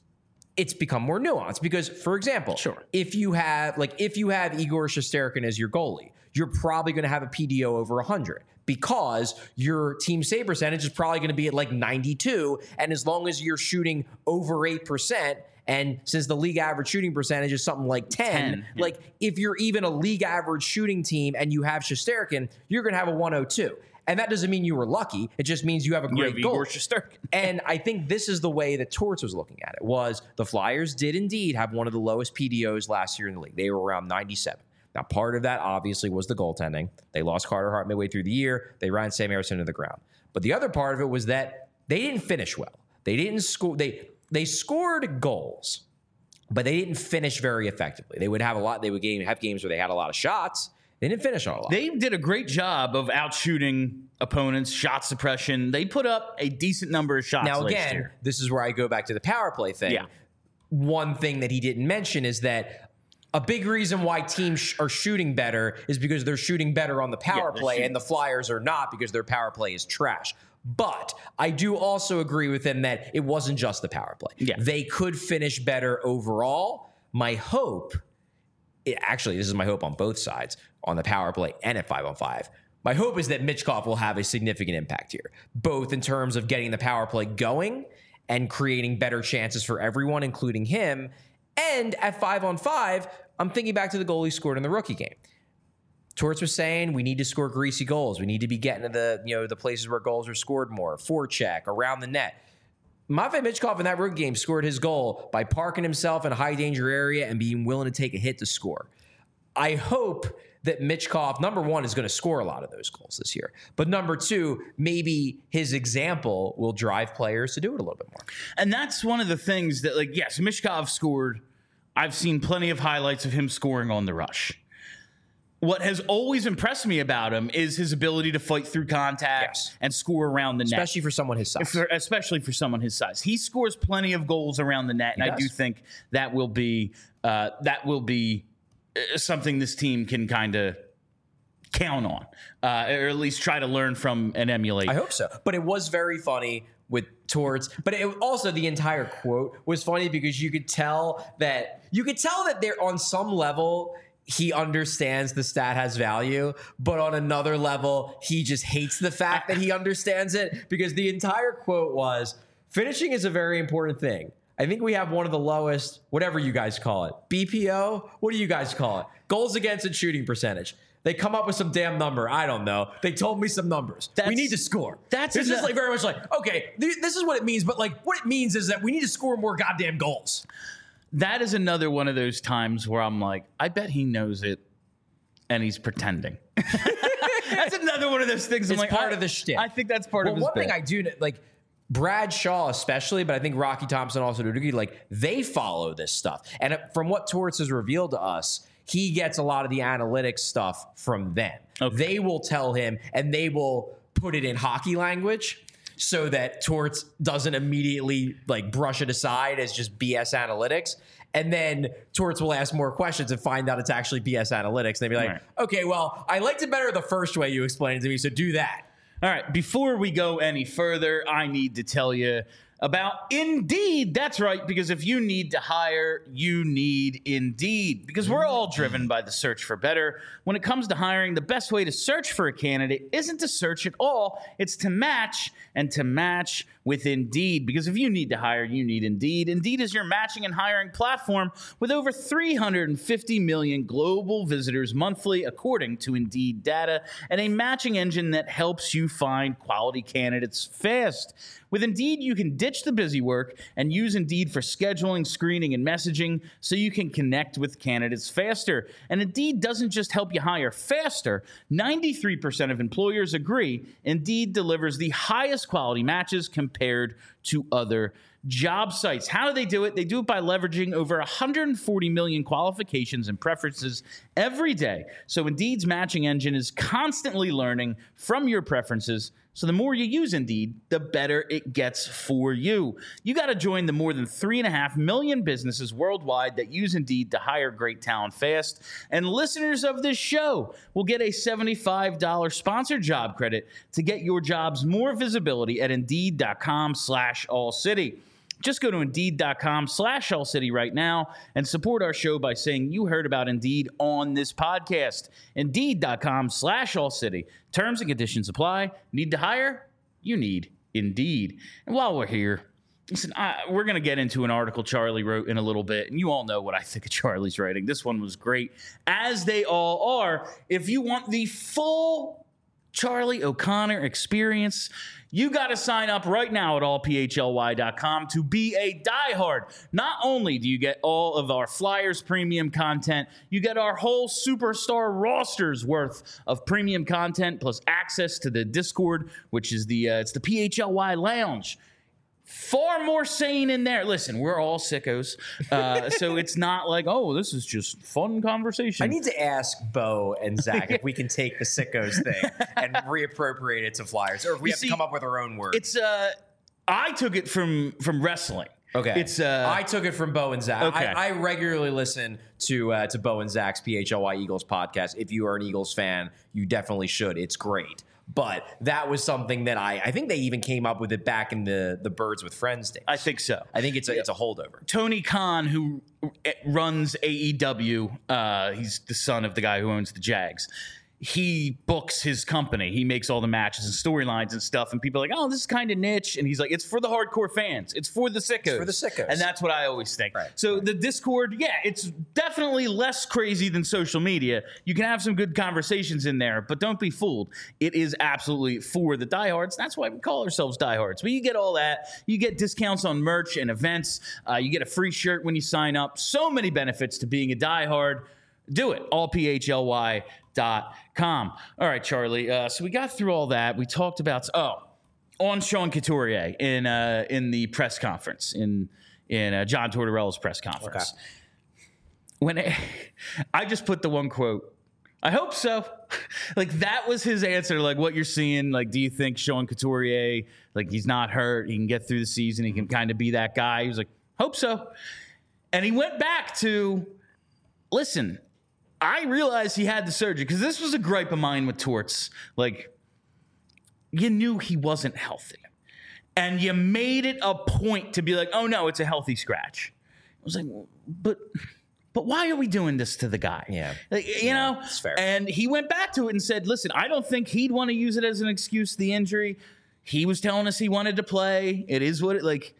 it's become more nuanced because, for example, sure. if you have like if you have Igor Shesterkin as your goalie, you're probably going to have a P D O over one hundred because your team save percentage is probably going to be at like ninety-two. And as long as you're shooting over eight percent, and since the league average shooting percentage is something like ten, ten yeah. like if you're even a league average shooting team and you have Shesterkin, you're going to have a one oh two. And that doesn't mean you were lucky. It just means you have a great you have goal. Shesterkin. And I think this is the way that Torts was looking at it, was the Flyers did indeed have one of the lowest P D Os last year in the league. They were around ninety-seven. Now, part of that obviously was the goaltending. They lost Carter Hart midway through the year. They ran Sam Ersson into the ground. But the other part of it was that they didn't finish well. They didn't score. They they scored goals, but they didn't finish very effectively. They would have a lot. They would game, have games where they had a lot of shots. They didn't finish on a lot. They did a great job of outshooting opponents, shot suppression. They put up a decent number of shots now, last again, year. This is where I go back to the power play thing. Yeah. One thing that he didn't mention is that a big reason why teams sh- are shooting better is because they're shooting better on the power yeah, play, shooting. and the Flyers are not because their power play is trash. But I do also agree with him that it wasn't just the power play. Yeah. They could finish better overall. My hope, it, actually, this is my hope on both sides, on the power play and at five on five. My hope is that Michkov will have a significant impact here, both in terms of getting the power play going and creating better chances for everyone, including him. And at five on five, I'm thinking back to the goal he scored in the rookie game. Torts was saying we need to score greasy goals. We need to be getting to the, you know, the places where goals are scored more, forecheck, around the net. Matvei Michkov in that rookie game scored his goal by parking himself in a high danger area and being willing to take a hit to score. I hope that Michkov, number one, is going to score a lot of those goals this year. But number two, maybe his example will drive players to do it a little bit more. And that's one of the things that, like, yes, Michkov scored. I've seen plenty of highlights of him scoring on the rush. What has always impressed me about him is his ability to fight through contact yes. and score around the net. Especially for someone his size. For, especially for someone his size. He scores plenty of goals around the net, and he I does. do think that will be uh, that will be something this team can kind of count on, uh, or at least try to learn from and emulate. I hope so. But it was very funny with Torts. But it also, the entire quote was funny because you could tell that you could tell that they're on some level. He understands the stat has value, but on another level, he just hates the fact that he understands it, because the entire quote was, finishing is a very important thing. I think we have one of the lowest, whatever you guys call it, B P O? What do you guys call it? Goals against and shooting percentage. They come up with some damn number. I don't know. They told me some numbers. That's, we need to score. That's it's just like very much like, okay, th- this is what it means, but like what it means is that we need to score more goddamn goals. That is another one of those times where I'm like, I bet he knows it and he's pretending. That's another one of those things. I'm It's like, part I, of the shtick. I think that's part well, of his one bit. thing I do, like, Brad Shaw especially, but I think Rocky Thompson also to a degree, like, they follow this stuff. And from what Torts has revealed to us, he gets a lot of the analytics stuff from them. Okay. They will tell him, and they will put it in hockey language so that Torts doesn't immediately like brush it aside as just B S analytics. And then Torts will ask more questions and find out it's actually B S analytics. And they'll be like, right. okay, well, I liked it better the first way you explained it to me, so do that. All right, before we go any further, I need to tell you about Indeed. That's right, because if you need to hire, you need Indeed, because we're all driven by the search for better. When it comes to hiring, the best way to search for a candidate isn't to search at all. It's to match, and to match with Indeed, because if you need to hire, you need Indeed. Indeed is your matching and hiring platform with over three hundred fifty million global visitors monthly, according to Indeed data, and a matching engine that helps you find quality candidates fast. With Indeed, you can ditch the busy work and use Indeed for scheduling, screening, and messaging so you can connect with candidates faster. And Indeed doesn't just help you hire faster. ninety-three percent of employers agree Indeed delivers the highest quality matches compared to other job sites. How do they do it? They do it by leveraging over one hundred forty million qualifications and preferences every day. So Indeed's matching engine is constantly learning from your preferences. So the more you use Indeed, the better it gets for you. You got to join the more than three and a half million businesses worldwide that use Indeed to hire great talent fast. And listeners of this show will get a seventy-five dollars sponsored job credit to get your jobs more visibility at Indeed.com slash All City. Just go to Indeed.com slash All City right now and support our show by saying you heard about Indeed on this podcast. Indeed.com slash All City. Terms and conditions apply. Need to hire? You need Indeed. And while we're here, listen, I, we're going to get into an article Charlie wrote in a little bit, and you all know what I think of Charlie's writing. This one was great, as they all are. If you want the full Charlie O'Connor experience, you got to sign up right now at all p h l y dot com to be a diehard. Not only do you get all of our Flyers premium content, you get our whole superstar rosters worth of premium content, plus access to the Discord, which is the uh, it's the P H L Y Lounge. Far more sane in there. Listen, we're all sickos, uh, so it's not like, oh, this is just fun conversation. I need to ask Bo and Zach if we can take the sickos thing and reappropriate it to Flyers, or if we You have see, to come up with our own word. It's uh, I took it from from wrestling. Okay, it's uh, I took it from Bo and Zach. Okay. I, I regularly listen to uh, to Bo and Zach's P H L Y Eagles podcast. If you are an Eagles fan, you definitely should. It's great. But that was something that I, I think they even came up with it back in the, the Birds with Friends days. I think so. I think it's a, it's a holdover. Tony Khan, who runs A E W, uh, he's the son of the guy who owns the Jags. He books his company. He makes all the matches and storylines and stuff. And people are like, oh, this is kind of niche. And he's like, it's for the hardcore fans. It's for the sickos. It's for the sickos. And that's what I always think. Right. So right. the Discord, yeah, it's definitely less crazy than social media. You can have some good conversations in there, but don't be fooled. It is absolutely for the diehards. That's why we call ourselves diehards. But you get all that. You get discounts on merch and events. Uh, you get a free shirt when you sign up. So many benefits to being a diehard. Do it. all p h l y dot com. All right, Charlie. Uh, so we got through all that. We talked about oh, on Sean Couturier in uh, in the press conference in in uh, John Tortorella's press conference. Okay. When it, I just put the one quote. I hope so. Like that was his answer. Like what you're seeing. Like, do you think Sean Couturier, like he's not hurt, he can get through the season, he can kind of be that guy? He was like, hope so. And he went back to, listen. I realized he had the surgery because this was a gripe of mine with Torts. Like, you knew he wasn't healthy. And you made it a point to be like, oh, no, it's a healthy scratch. I was like, but but why are we doing this to the guy? Yeah. Like, you yeah, know? it's fair. And he went back to it and said, listen, I don't think he'd want to use it as an excuse, the injury. He was telling us he wanted to play. It is what it, like,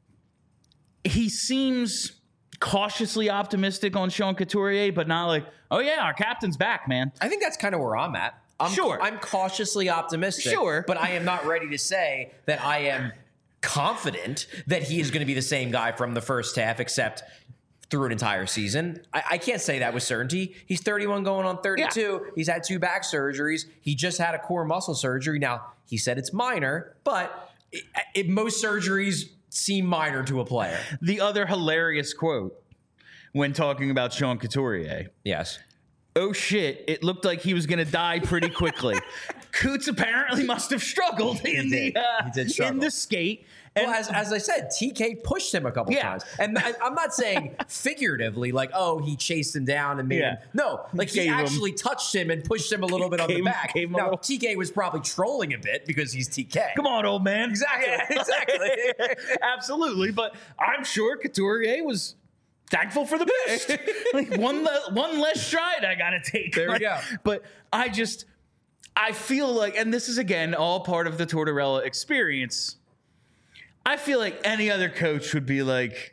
he seems cautiously optimistic on Sean Couturier, but not like, oh, yeah, our captain's back, man. I think that's kind of where I'm at. I'm, sure. I'm cautiously optimistic. Sure. But I am not ready to say that I am confident that he is going to be the same guy from the first half, except through an entire season. I, I can't say that with certainty. He's thirty-one going on thirty-two. Yeah. He's had two back surgeries. He just had a core muscle surgery. Now, he said it's minor, but it, it, most surgeries seem minor to a player. The other hilarious quote when talking about Sean Couturier. Yes. Oh, shit, it looked like he was going to die pretty quickly. Coots apparently must have struggled in the uh, he did struggle. in the skate. And well, as, as I said, T K pushed him a couple yeah. times. And I, I'm not saying figuratively, like, oh, he chased him down and made yeah. him. No, like he Gave actually him, touched him and pushed him a little bit on gave, the back. Gave him now, little... T K was probably trolling a bit because he's T K. Come on, old man. Exactly. Yeah, exactly. Absolutely. But I'm sure Couturier was thankful for the best. Like one, le- one less stride I got to take. There like, we go. But I just, I feel like, and this is again all part of the Tortorella experience. I feel like any other coach would be like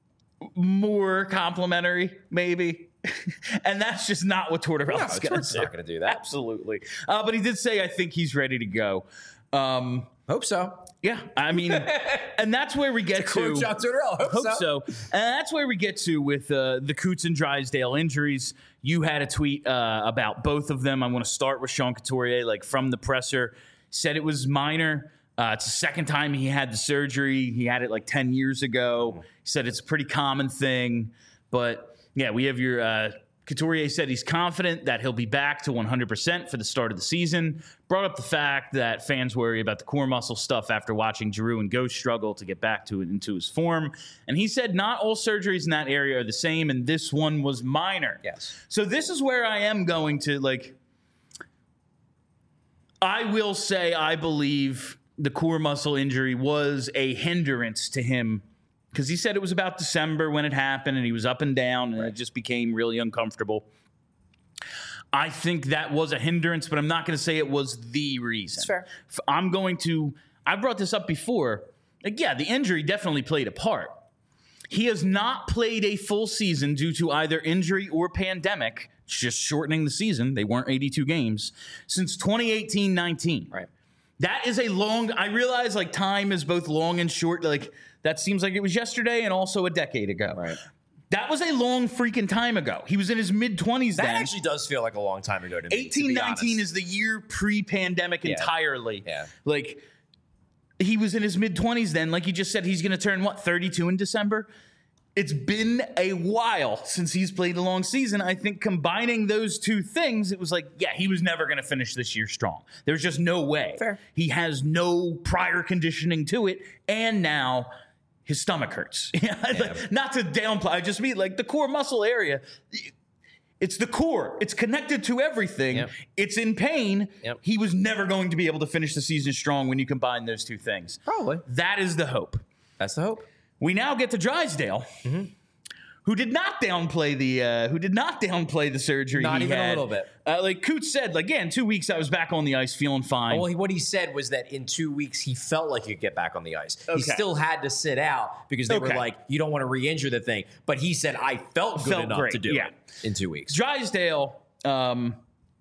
more complimentary, maybe. And that's just not what Tortorella's no, going to do. not going to do that. Absolutely. Uh, but he did say, I think he's ready to go. Um, Hope so. Yeah, I mean, and that's where we get to. John Tortorella. Hope, hope so. so. And that's where we get to with uh, the Coots and Drysdale injuries. You had a tweet uh, about both of them. I want to start with Sean Couturier, like from the presser. Said it was minor. Uh, it's the second time he had the surgery. He had it like ten years ago. He said it's a pretty common thing. But yeah, we have your uh, Couturier said he's confident that he'll be back to one hundred percent for the start of the season. Brought up the fact that fans worry about the core muscle stuff after watching Giroux and Ghost struggle to get back to it into his form. And he said not all surgeries in that area are the same, and this one was minor. Yes. So this is where I am going to, like, I will say I believe the core muscle injury was a hindrance to him because he said it was about December when it happened and he was up and down and right. it just became really uncomfortable. I think that was a hindrance, but I'm not going to say it was the reason. That's fair. I'm going to, I brought this up before. Like, yeah, the injury definitely played a part. He has not played a full season due to either injury or pandemic, just shortening the season. They weren't eighty-two games since twenty eighteen nineteen. Right. That is a long, I realize like time is both long and short. Like that seems like it was yesterday and also a decade ago. Right. That was a long freaking time ago. He was in his mid-twenties then. That actually does feel like a long time ago to me, eighteen nineteen is the year pre-pandemic yeah. entirely. Yeah. Like he was in his mid-twenties then. Like you just said, he's going to turn, what, thirty-two in December? It's been a while since he's played a long season. I think combining those two things, it was like, yeah, he was never going to finish this year strong. There's just no way. Fair. He has no prior conditioning to it, and now his stomach hurts. Yeah. Like, not to downplay, I just mean like the core muscle area. It's the core. It's connected to everything. Yep. It's in pain. Yep. He was never going to be able to finish the season strong when you combine those two things. Probably. That is the hope. That's the hope. We now get to Drysdale, mm-hmm. who did not downplay the uh, who did not downplay the surgery. Not he even had. a little bit. Uh, like Coots said, like yeah, in two weeks I was back on the ice, feeling fine. Well, he, what he said was that in two weeks he felt like he could get back on the ice. Okay. He still had to sit out because they okay. were like, "You don't want to re-injure the thing." But he said, "I felt good felt enough great. to do yeah. it in two weeks." Drysdale, um,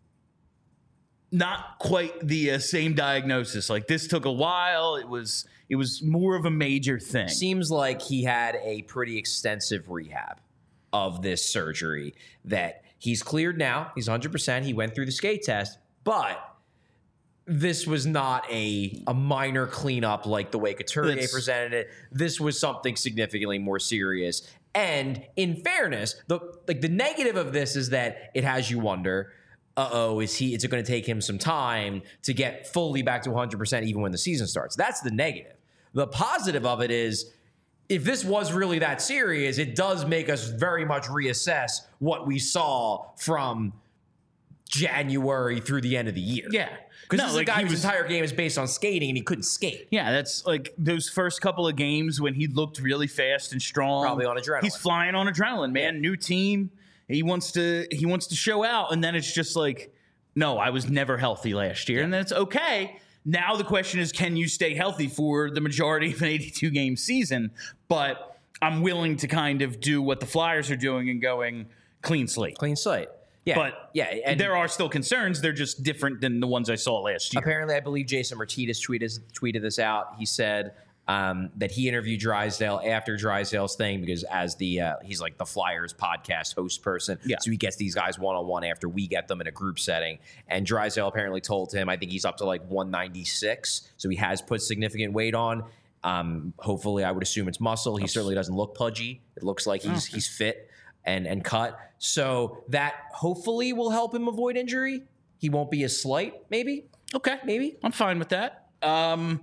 not quite the uh, same diagnosis. Like this took a while. It was it was more of a major thing. Seems like he had a pretty extensive rehab of this surgery that he's cleared now. He's one hundred percent. He went through the skate test, but this was not a, a minor cleanup like the way Couturier It's, presented it. This was something significantly more serious. And in fairness, the like the negative of this is that it has you wonder, uh-oh, is he? Is it going to take him some time to get fully back to one hundred percent even when the season starts? That's the negative. The positive of it is if this was really that serious, it does make us very much reassess what we saw from January through the end of the year. Yeah. Because No, this is like, a guy he whose was- entire game is based on skating, and he couldn't skate. Yeah, that's like those first couple of games when he looked really fast and strong. Probably on adrenaline. He's flying on adrenaline, man. New team. He wants to he wants to show out, and then it's just like, no, I was never healthy last year, and then it's okay. Now the question is, can you stay healthy for the majority of an eighty-two game season? But I'm willing to kind of do what the Flyers are doing and going clean slate. Clean slate. Yeah. But yeah, and there are still concerns. They're just different than the ones I saw last year. apparently, I believe Jason Martinez tweeted, tweeted this out. He said um, that he interviewed Drysdale after Drysdale's thing because as the uh, he's like the Flyers podcast host person. Yeah. So he gets these guys one-on-one after we get them in a group setting. And Drysdale apparently told him, I think he's up to like one ninety-six. So he has put significant weight on. Um, hopefully, I would assume it's muscle. He certainly doesn't look pudgy. It looks like he's he's fit and and cut. So that hopefully will help him avoid injury. He won't be as slight, maybe. Okay, Maybe. I'm fine with that. Um,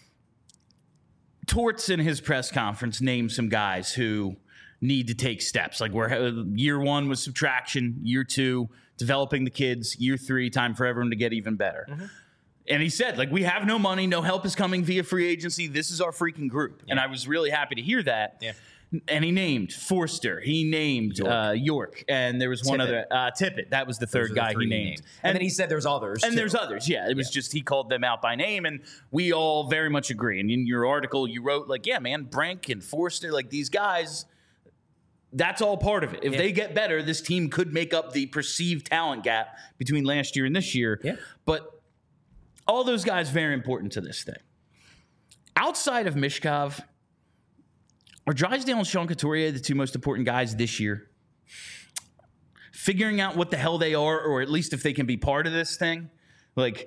Torts in his press conference named some guys who need to take steps. Like where year one was subtraction, year two developing the kids, year three time for everyone to get even better. Mm-hmm. And he said, like, we have no money, no help is coming via free agency. This is our freaking group, and I was really happy to hear that. Yeah. And he named Forster. He named York, uh, York. And there was one Tippett. other uh, Tippett. That was the third Those are the guy he three named. And, and then he said there's others. And too. there's others, yeah. It was Yeah. just he called them out by name, and we all very much agree. And in your article, you wrote, like, yeah, man, Brink and Forster, like these guys, that's all part of it. If Yeah. they get better, this team could make up the perceived talent gap between last year and this year. Yeah. But all those guys very important to this thing. Outside of Mishkov, are Drysdale and Sean Couturier the two most important guys this year? Figuring out what the hell they are, or at least if they can be part of this thing. Like,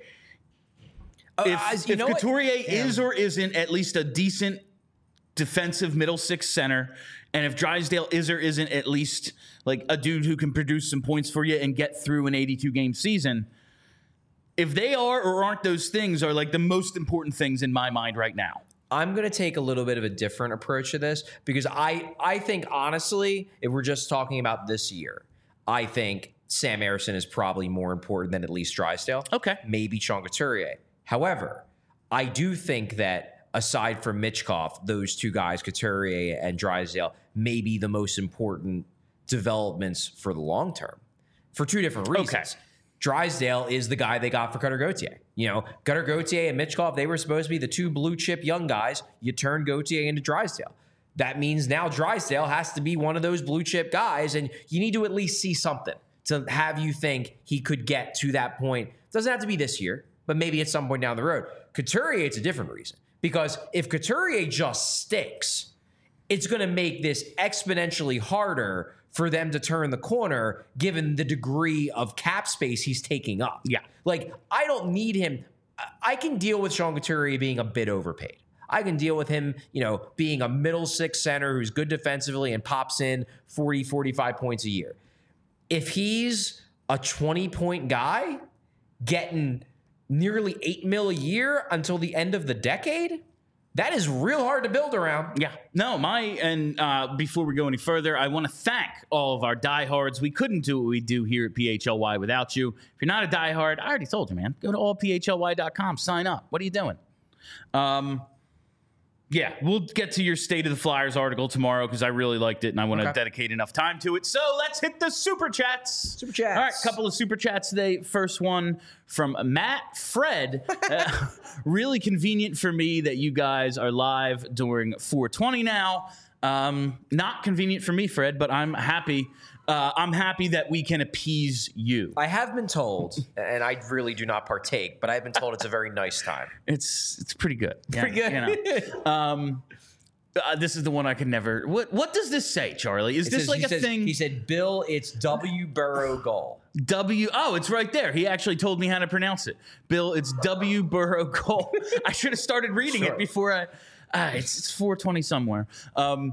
if, Uh, you if know what? Couturier Yeah. is or isn't at least a decent defensive middle six center, and if Drysdale is or isn't at least like a dude who can produce some points for you and get through an eighty-two game season, if they are or aren't those things are like the most important things in my mind right now. I'm going to take a little bit of a different approach to this because I, I think, honestly, if we're just talking about this year, I think Sam Ersson is probably more important than at least Drysdale. Okay. Maybe Sean Couturier. However, I do think that aside from Michkov, those two guys, Couturier and Drysdale, may be the most important developments for the long term for two different reasons. Okay. Drysdale is the guy they got for Cutter Gauthier. You know, Cutter Gauthier and Michkov, they were supposed to be the two blue chip young guys. You turn Gauthier into Drysdale. That means now Drysdale has to be one of those blue chip guys, and you need to at least see something to have you think he could get to that point. Doesn't have to be this year, but maybe at some point down the road. Couturier, it's a different reason. Because if Couturier just sticks, it's going to make this exponentially harder for them to turn the corner given the degree of cap space he's taking up. Yeah. Like, I don't need him. I- I can deal with Sean Couturier being a bit overpaid. I can deal with him, you know, being a middle six center who's good defensively and pops in forty, forty-five points a year. If he's a twenty-point guy getting nearly eight mil a year until the end of the decade, that is real hard to build around. Yeah. No, my, and uh, before we go any further, I want to thank all of our diehards. We couldn't do what we do here at P H L Y without you. If you're not a diehard, I already told you, man. Go to all p h l y dot com, sign up. What are you doing? Um, yeah, we'll get to your State of the Flyers article tomorrow because I really liked it and I want to Okay. dedicate enough time to it. So let's hit the super chats. Super chats. All right, couple of super chats today. First one from Matt Fred. Uh, really convenient for me that you guys are live during four twenty now. Um, not convenient for me, Fred, but I'm happy. Uh, I'm happy that we can appease you. I have been told, and I really do not partake, but I've been told it's a very nice time. It's it's pretty good. Pretty Yeah, good. You know. um, uh, this is the one I can never. What what does this say, Charlie? Is It this says- like he a says- thing? He said, Bill, it's W. Burrow goal. W. Oh, it's right there. He actually told me how to pronounce it. Bill, it's W. Burrow Goal. I should have started reading Sure. it before I. Uh, it's it's four twenty somewhere. Um,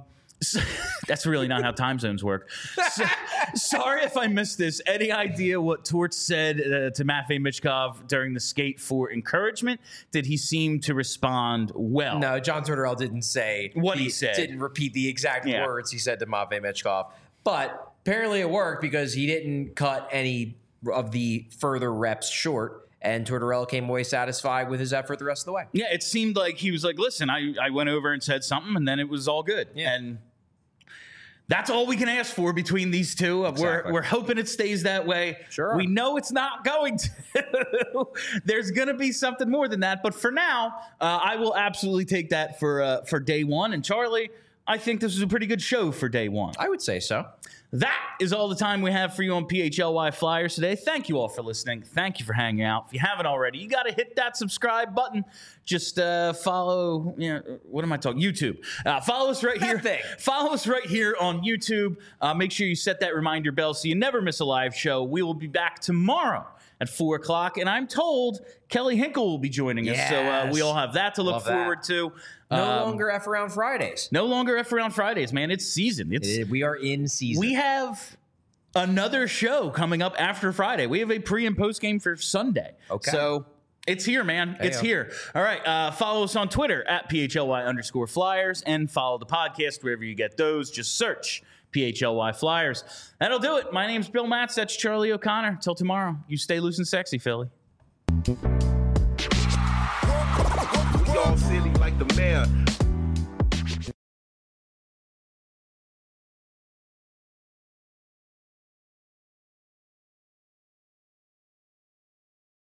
That's really not how time zones work. So, sorry if I missed this. Any idea what Torch said uh, to Matvey Michkov during the skate for encouragement? Did he seem to respond well? No, John Tortorella didn't say what he, he said. Didn't repeat the exact yeah. words he said to Matvey Michkov. But apparently it worked because he didn't cut any of the further reps short. And Tortorella came away satisfied with his effort the rest of the way. Yeah, it seemed like he was like, listen, I, I went over and said something, and then it was all good. Yeah. And that's all we can ask for between these two. Exactly. We're, we're hoping it stays that way. Sure. We know it's not going to. There's going to be something more than that. But for now, uh, I will absolutely take that for uh, for day one. And Charlie, I think this was a pretty good show for day one. I would say so. That is all the time we have for you on P H L Y Flyers today. Thank you all for listening. Thank you for hanging out. If you haven't already, you got to hit that subscribe button. Just uh, follow, you know, what am I talking? YouTube. Uh, follow us right here. Thing. Follow us right here on YouTube. Uh, make sure you set that reminder bell so you never miss a live show. We will be back tomorrow at four o'clock, and I'm told Kelly Hinkle will be joining us. Yes. So uh, we all have that to look Love forward that. to. No Um, longer F Around Fridays. No longer F Around Fridays, man. It's season. It's Uh, We are in season. We have another show coming up after Friday. We have a pre and post game for Sunday. Okay. So it's here, man. It's Hey-o. here. All right. Uh, follow us on Twitter at P H L Y underscore Flyers and follow the podcast wherever you get those. Just search P H L Y Flyers. That'll do it. My name's Bill Matz. That's Charlie O'Connor. Till tomorrow. You stay loose and sexy, Philly. We all silly like the mayor.